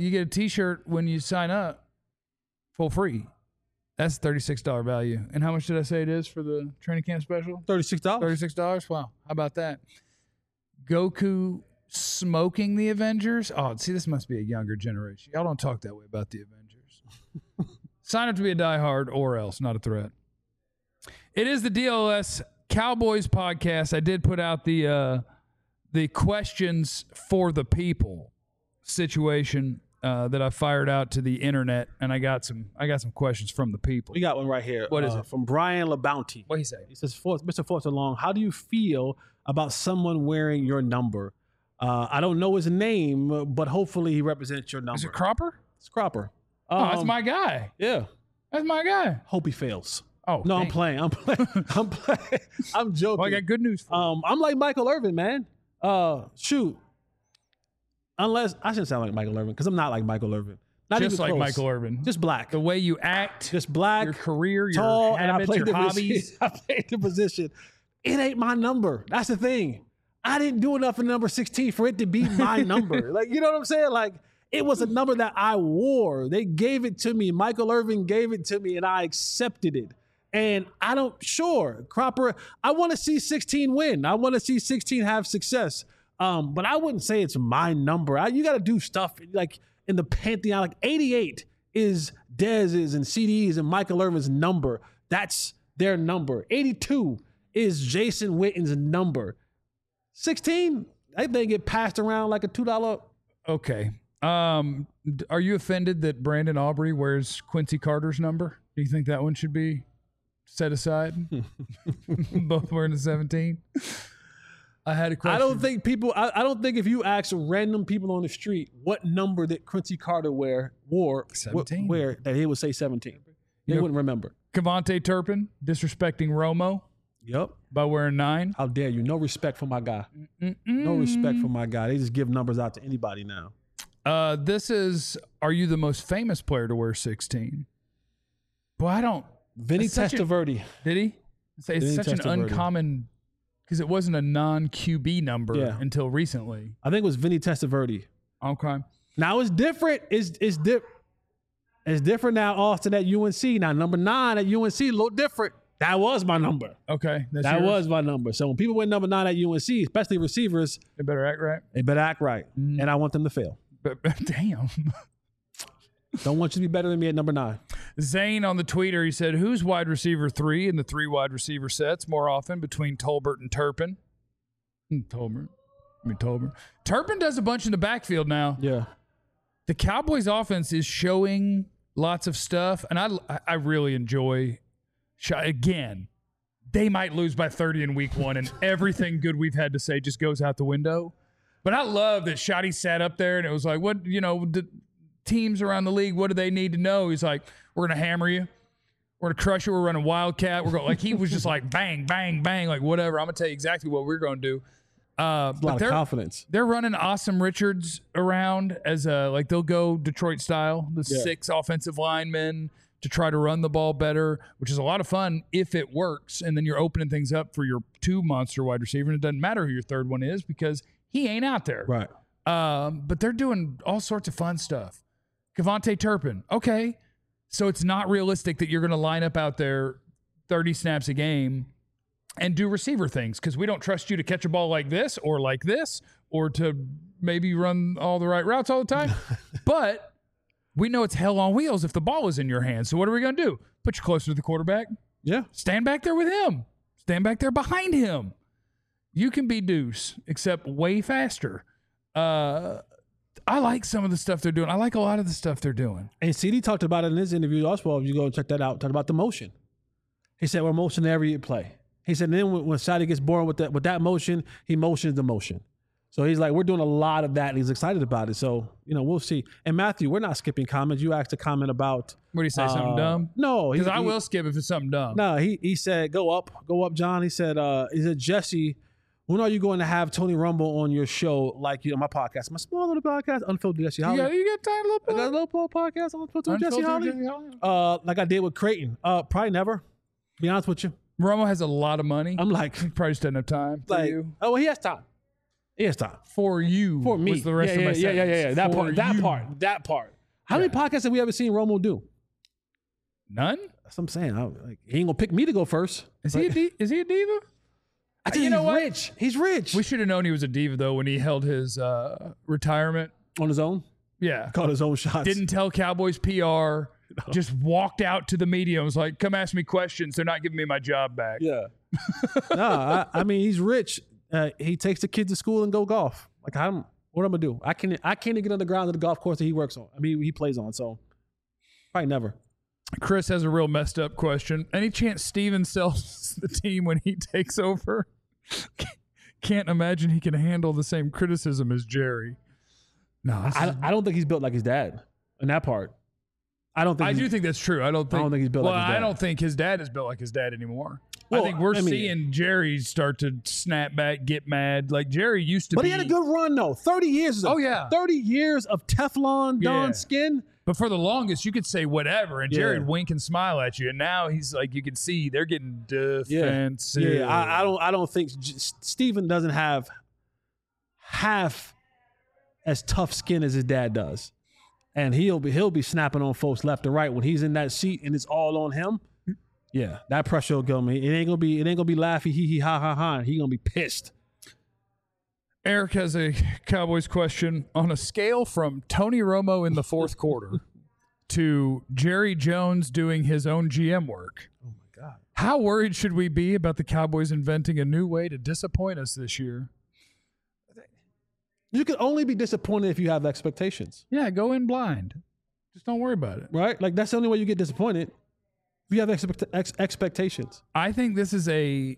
[SPEAKER 1] you sign up for free. That's $36 value. And how much did I say it is for the training camp special?
[SPEAKER 2] $36.
[SPEAKER 1] $36? Wow. How about that? Goku smoking the Avengers? Oh, see, this must be a younger generation. Y'all don't talk that way about the Avengers. Sign up to be a diehard or else. Not a threat. It is the DLS Cowboys podcast. I did put out the questions for the people situation that I fired out to the internet, and I got some questions from the people.
[SPEAKER 2] We got one right here.
[SPEAKER 1] What is it?
[SPEAKER 2] From Brian LaBounty.
[SPEAKER 1] What he say?
[SPEAKER 2] He says, Mr. Forster Long, how do you feel about someone wearing your number? I don't know his name, but hopefully he represents your number.
[SPEAKER 1] Is it Cropper?
[SPEAKER 2] It's Cropper.
[SPEAKER 1] That's my guy.
[SPEAKER 2] Yeah.
[SPEAKER 1] That's my guy.
[SPEAKER 2] Hope he fails.
[SPEAKER 1] Oh,
[SPEAKER 2] no,
[SPEAKER 1] dang.
[SPEAKER 2] I'm playing. I'm joking.
[SPEAKER 1] Well, I got good news for you.
[SPEAKER 2] I'm like Michael Irvin, man. Shoot. Unless I shouldn't sound like Michael Irvin because I'm not like Michael Irvin. Not
[SPEAKER 1] just
[SPEAKER 2] even
[SPEAKER 1] like
[SPEAKER 2] close.
[SPEAKER 1] Michael Irvin.
[SPEAKER 2] Just black.
[SPEAKER 1] The way you act.
[SPEAKER 2] Just black.
[SPEAKER 1] Your career,
[SPEAKER 2] tall,
[SPEAKER 1] your habits, your hobbies.
[SPEAKER 2] I played the position. It ain't my number. That's the thing. I didn't do enough in number 16 for it to be my number. Like, you know what I'm saying? Like, it was a number that I wore. They gave it to me. Michael Irvin gave it to me, and I accepted it. And Cropper, I want to see 16 win. I want to see 16 have success. But I wouldn't say it's my number. You got to do stuff like in the pantheon. Like 88 is Dez's and CD's and Michael Irvin's number. That's their number. 82 is Jason Witten's number. 16, I think they get passed around like a $2.
[SPEAKER 1] Okay. Are you offended that Brandon Aubrey wears Quincy Carter's number? Do you think that one should be set aside? Both wearing the 17? I had a question.
[SPEAKER 2] I don't think if you ask random people on the street what number that Quincy Carter wore
[SPEAKER 1] 17.
[SPEAKER 2] That he would say 17. They wouldn't remember.
[SPEAKER 1] Cavante Turpin disrespecting Romo.
[SPEAKER 2] Yep.
[SPEAKER 1] By wearing 9.
[SPEAKER 2] How dare you? No respect for my guy. No respect for my guy. They just give numbers out to anybody now.
[SPEAKER 1] This is, are you the most famous player to wear 16? Boy, I don't.
[SPEAKER 2] Vinny Testaverde.
[SPEAKER 1] Did he? It's such an uncommon, because it wasn't a non-QB number until recently.
[SPEAKER 2] I think it was Vinny Testaverde.
[SPEAKER 1] Okay.
[SPEAKER 2] Now it's different. It's different now, Austin, at UNC. Now, number 9 at UNC, a little different. That was my number.
[SPEAKER 1] Okay.
[SPEAKER 2] That was my number. So when people win number 9 at UNC, especially receivers,
[SPEAKER 1] they better act right.
[SPEAKER 2] And I want them to fail.
[SPEAKER 1] But damn.
[SPEAKER 2] Don't want you to be better than me at number 9.
[SPEAKER 1] Zane on the tweeter, he said, who's wide receiver 3 in the 3 wide receiver sets more often between Tolbert and Turpin? Turpin does a bunch in the backfield now.
[SPEAKER 2] Yeah.
[SPEAKER 1] The Cowboys offense is showing lots of stuff, and I really enjoy. Again, they might lose by 30 in week 1, and everything good we've had to say just goes out the window. But I love that Shotty sat up there, and it was like, teams around the league, what do they need to know? He's like, we're going to hammer you. We're going to crush you. We're running Wildcat. We're going like he was just like bang, bang, bang, like whatever. I'm going to tell you exactly what we're going to do.
[SPEAKER 2] A lot of confidence.
[SPEAKER 1] They're running Awesome Richards around as like they'll go Detroit style, the 6 offensive linemen to try to run the ball better, which is a lot of fun if it works. And then you're opening things up for your 2 monster wide receiver. And it doesn't matter who your third one is because he ain't out there.
[SPEAKER 2] Right.
[SPEAKER 1] But they're doing all sorts of fun stuff. Kevontae Turpin. Okay. So it's not realistic that you're going to line up out there 30 snaps a game and do receiver things because we don't trust you to catch a ball like this or to maybe run all the right routes all the time. But we know it's hell on wheels if the ball is in your hands. So what are we going to do? Put you closer to the quarterback?
[SPEAKER 2] Yeah.
[SPEAKER 1] Stand back there with him. Stand back there behind him. You can be Deuce, except way faster. I like some of the stuff they're doing. I like a lot of the stuff they're doing.
[SPEAKER 2] And CD talked about it in his interview also. If you go and check that out, talked about the motion. He said we're motioning every play. He said then when Shadi gets bored with that motion, he motions the motion. So he's like, we're doing a lot of that, and he's excited about it. So, we'll see. And Matthew, we're not skipping comments. You asked a comment about...
[SPEAKER 1] What do you say, something dumb?
[SPEAKER 2] No.
[SPEAKER 1] Because I will skip if it's something dumb.
[SPEAKER 2] No, he said, go up, John. He said, Jesse, when are you going to have Tony Rumble on your show, like my podcast, my small little podcast, Unfiltered Jesse Holly?
[SPEAKER 1] You got time, little
[SPEAKER 2] I got a little podcast, Unfiltered Jesse Holly. Like I did with Creighton. Probably never. Be honest with you.
[SPEAKER 1] Romo has a lot of money.
[SPEAKER 2] I'm like,
[SPEAKER 1] he probably just doesn't have time for you.
[SPEAKER 2] Oh, well, he has time. He has time
[SPEAKER 1] for you.
[SPEAKER 2] For me.
[SPEAKER 1] Was the rest of my
[SPEAKER 2] sentence. That part. How many podcasts have we ever seen Romo do?
[SPEAKER 1] None.
[SPEAKER 2] That's what I'm saying. He ain't gonna pick me to go first.
[SPEAKER 1] Is he a diva?
[SPEAKER 2] I think he's rich. He's rich.
[SPEAKER 1] We should have known he was a diva though when he held his retirement
[SPEAKER 2] on his own.
[SPEAKER 1] Yeah,
[SPEAKER 2] caught his own shots.
[SPEAKER 1] Didn't tell Cowboys PR. No. Just walked out to the media and was like, "Come ask me questions. They're not giving me my job back."
[SPEAKER 2] Yeah. No, I mean he's rich. He takes the kids to school and go golf. Like what am I gonna do? I can't even get on the ground of the golf course that he works on. I mean he plays on. So probably never.
[SPEAKER 1] Chris has a real messed up question. Any chance Steven sells the team when he takes over? Can't imagine he can handle the same criticism as Jerry. No,
[SPEAKER 2] I don't think he's built like his dad in that part. I do think that's true. I don't think he's built like his dad.
[SPEAKER 1] I don't think his dad is built like his dad anymore. Well, I think we're seeing Jerry start to snap back, get mad. Like Jerry used to be.
[SPEAKER 2] But he had a good run, though. 30 years. 30 years of Teflon Don skin.
[SPEAKER 1] But for the longest, you could say whatever, and Jerry would wink and smile at you. And now he's like, you can see they're getting defensive.
[SPEAKER 2] Yeah, I don't think Steven doesn't have half as tough skin as his dad does. And he'll be snapping on folks left and right when he's in that seat and it's all on him. Yeah, that pressure will go, man. It ain't gonna be laughy, hee hee, ha ha ha. He gonna be pissed.
[SPEAKER 1] Eric has a Cowboys question. On a scale from Tony Romo in the fourth quarter to Jerry Jones doing his own GM work.
[SPEAKER 2] Oh my God!
[SPEAKER 1] How worried should we be about the Cowboys inventing a new way to disappoint us this year?
[SPEAKER 2] You can only be disappointed if you have expectations.
[SPEAKER 1] Yeah, go in blind. Just don't worry about it.
[SPEAKER 2] Right? Like that's the only way you get disappointed. If you have expectations.
[SPEAKER 1] I think this is a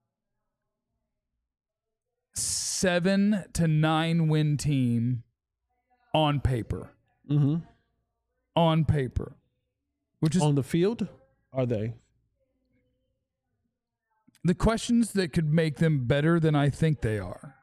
[SPEAKER 1] 7 to 9 win team on paper.
[SPEAKER 2] Mm-hmm.
[SPEAKER 1] On paper. Which is
[SPEAKER 2] on the field, are they?
[SPEAKER 1] The questions that could make them better than I think they are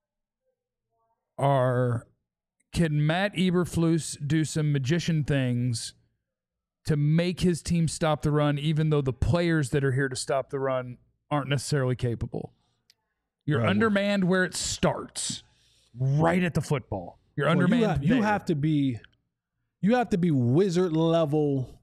[SPEAKER 1] can Matt Eberflus do some magician things to make his team stop the run, even though the players that are here to stop the run aren't necessarily capable? You're undermanned where it starts, right at the football. You're undermanned.
[SPEAKER 2] You have to be wizard level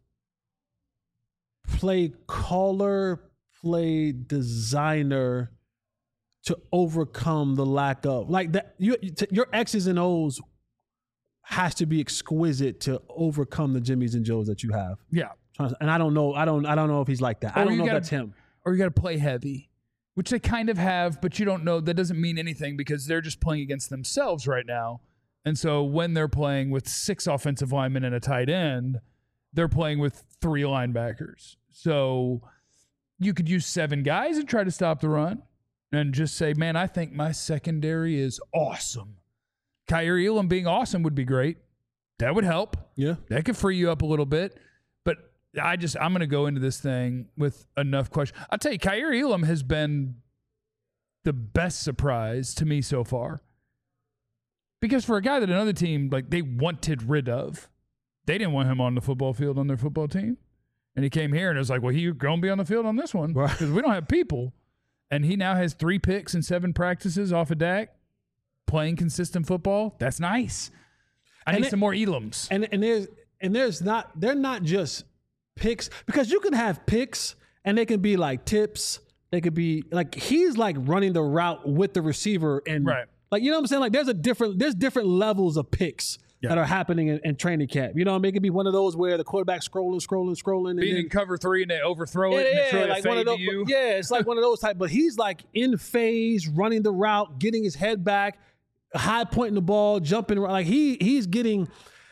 [SPEAKER 2] play caller, play designer to overcome the lack of like that. Your X's and O's has to be exquisite to overcome the Jimmys and Joes that you have.
[SPEAKER 1] Yeah,
[SPEAKER 2] and I don't know if he's like that. I don't know if that's him.
[SPEAKER 1] Or you got to play heavy, which they kind of have, but you don't know. That doesn't mean anything because they're just playing against themselves right now. And so when they're playing with 6 offensive linemen and a tight end, they're playing with 3 linebackers. So you could use 7 guys and try to stop the run and just say, man, I think my secondary is awesome. Kaiir Elam being awesome would be great. That would help.
[SPEAKER 2] Yeah.
[SPEAKER 1] That could free you up a little bit. But I'm going to go into this thing with enough questions. I'll tell you, Kaiir Elam has been the best surprise to me so far. Because for a guy that another team, like, they wanted rid of, they didn't want him on the football field on their football team. And he came here and it was like, well, you're going to be on the field on this one because we don't have people. And he now has 3 picks and 7 practices off of Dak, playing consistent football. That's nice. I need some more Elams.
[SPEAKER 2] They're not just picks, because you can have picks and they can be like tips. They could be like, he's like running the route with the receiver and like, you know what I'm saying? Like there's different levels of picks that are happening in training camp. You know what I mean? It could be one of those where the quarterback's scrolling.
[SPEAKER 1] Being in cover 3 and they overthrow it. And
[SPEAKER 2] like one of those. Yeah, it's like one of those type. But he's like in phase, running the route, getting his head back, high pointing the ball, jumping. Like he's getting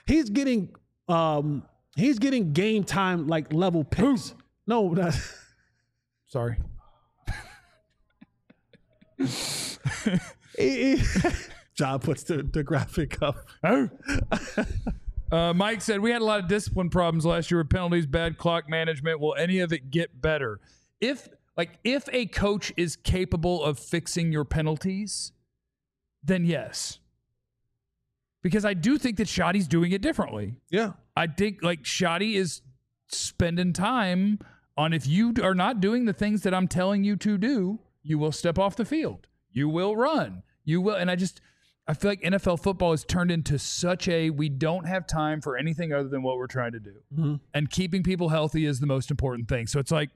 [SPEAKER 2] game time like level picks. No, not.
[SPEAKER 1] Sorry.
[SPEAKER 2] John puts the graphic up.
[SPEAKER 1] Mike said, we had a lot of discipline problems last year with penalties, bad clock management. Will any of it get better? If a coach is capable of fixing your penalties, then yes. Because I do think that Shoddy's doing it differently.
[SPEAKER 2] Yeah.
[SPEAKER 1] I think like Shoddy is spending time on, if you are not doing the things that I'm telling you to do, you will step off the field. You will run. You will. And I feel like NFL football has turned into such a, we don't have time for anything other than what we're trying to do. Mm-hmm. And keeping people healthy is the most important thing. So it's like,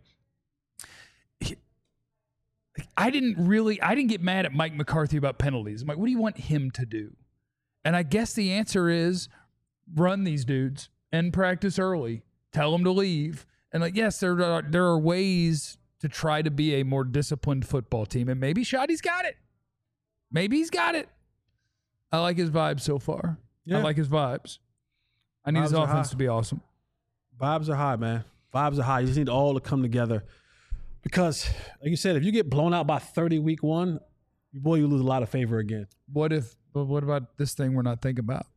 [SPEAKER 1] I didn't get mad at Mike McCarthy about penalties. I'm like, what do you want him to do? And I guess the answer is run these dudes and practice early. Tell them to leave. And like, yes, there are ways to try to be a more disciplined football team. And maybe Shoddy's got it. Maybe he's got it. I like his vibes so far. Yeah. I like his vibes. I need his offense to be awesome.
[SPEAKER 2] Vibes are high, man. Vibes are high. You just need all to come together. Because, like you said, if you get blown out by 30 week 1, boy, you lose a lot of favor again.
[SPEAKER 1] What about this thing we're not thinking about?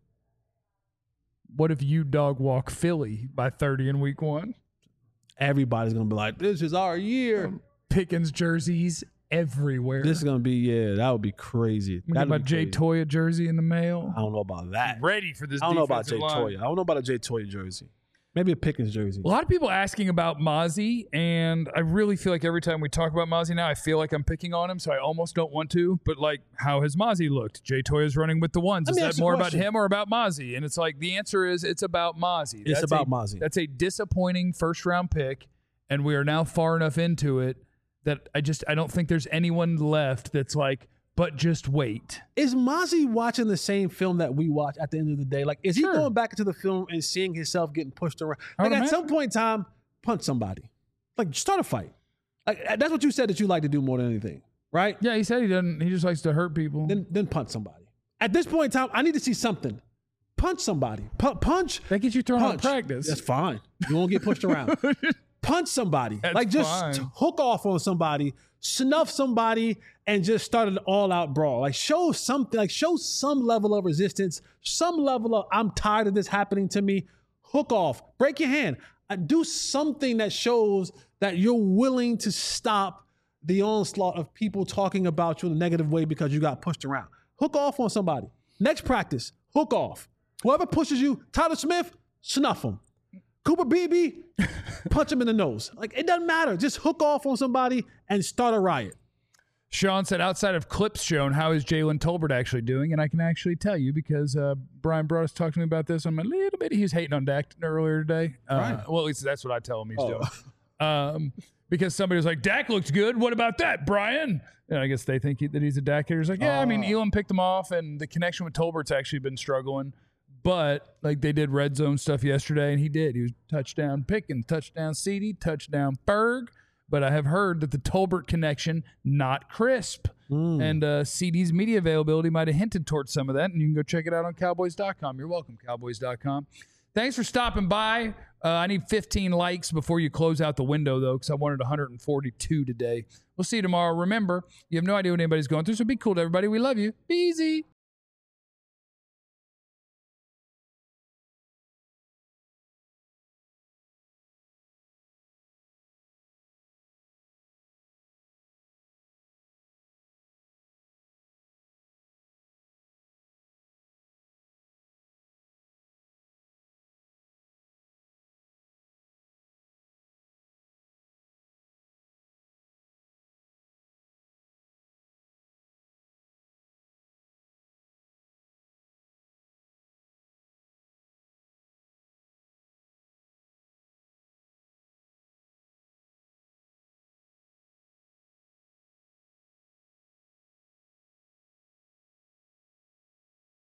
[SPEAKER 1] What if you dog walk Philly by 30 in week 1?
[SPEAKER 2] Everybody's going to be like, this is our year.
[SPEAKER 1] Pickens jerseys everywhere.
[SPEAKER 2] This is going to be, that would be crazy.
[SPEAKER 1] We got my Jay Toya jersey in the mail.
[SPEAKER 2] I don't know about that.
[SPEAKER 1] Ready for this.
[SPEAKER 2] I don't know about Jay Toya. I don't know about a Jay Toya jersey. Maybe a Pickens jersey.
[SPEAKER 1] A lot of people asking about Mozzie, and I really feel like every time we talk about Mozzie now, I feel like I'm picking on him, so I almost don't want to. But, like, how has Mozzie looked? Jay Toya's running with the ones. Is that more about him or about Mozzie? And it's like, the answer is it's about Mozzie.
[SPEAKER 2] It's about Mozzie.
[SPEAKER 1] That's a disappointing first-round pick, and we are now far enough into it that I don't think there's anyone left that's like, but just wait.
[SPEAKER 2] Is Mozzie watching the same film that we watch at the end of the day? Like, is he going back into the film and seeing himself getting pushed around? Like, at some point in time, punch somebody. Like, start a fight. Like, that's what you said that you like to do more than anything, right?
[SPEAKER 1] Yeah, he said he doesn't. He just likes to hurt people.
[SPEAKER 2] Then punch somebody. At this point in time, I need to see something. Punch somebody. Punch.
[SPEAKER 1] That gets you thrown out of practice.
[SPEAKER 2] That's fine. You won't get pushed around. Punch somebody.
[SPEAKER 1] That's
[SPEAKER 2] like, just hook off on somebody, snuff somebody, and just start an all-out brawl. Like, show something. Like, show some level of resistance, some level of, I'm tired of this happening to me. Hook off. Break your hand. Do something that shows that you're willing to stop the onslaught of people talking about you in a negative way because you got pushed around. Hook off on somebody. Next practice, hook off. Whoever pushes you, Tyler Smith, snuff him. Cooper Beebe, punch him in the nose. Like, it doesn't matter. Just hook off on somebody and start a riot.
[SPEAKER 1] Sean said, outside of clips shown, how is Jalen Tolbert actually doing? And I can actually tell you because Brian Broaddus talked to me about this on my little bit. He was hating on Dak earlier today. Well, at least that's what I tell him he's doing. Because somebody was like, Dak looked good. What about that, Brian? And I guess they think that he's a Dak hater. He's like, yeah, I mean, Elam picked him off, and the connection with Tolbert's actually been struggling. But, like, they did red zone stuff yesterday, and he did. He was touchdown Pickens, touchdown CD, touchdown Berg. But I have heard that the Tolbert connection, not crisp. And CD's media availability might have hinted towards some of that, and you can go check it out on Cowboys.com. You're welcome, Cowboys.com. Thanks for stopping by. I need 15 likes before you close out the window, though, because I wanted 142 today. We'll see you tomorrow. Remember, you have no idea what anybody's going through, so be cool to everybody. We love you. Be easy.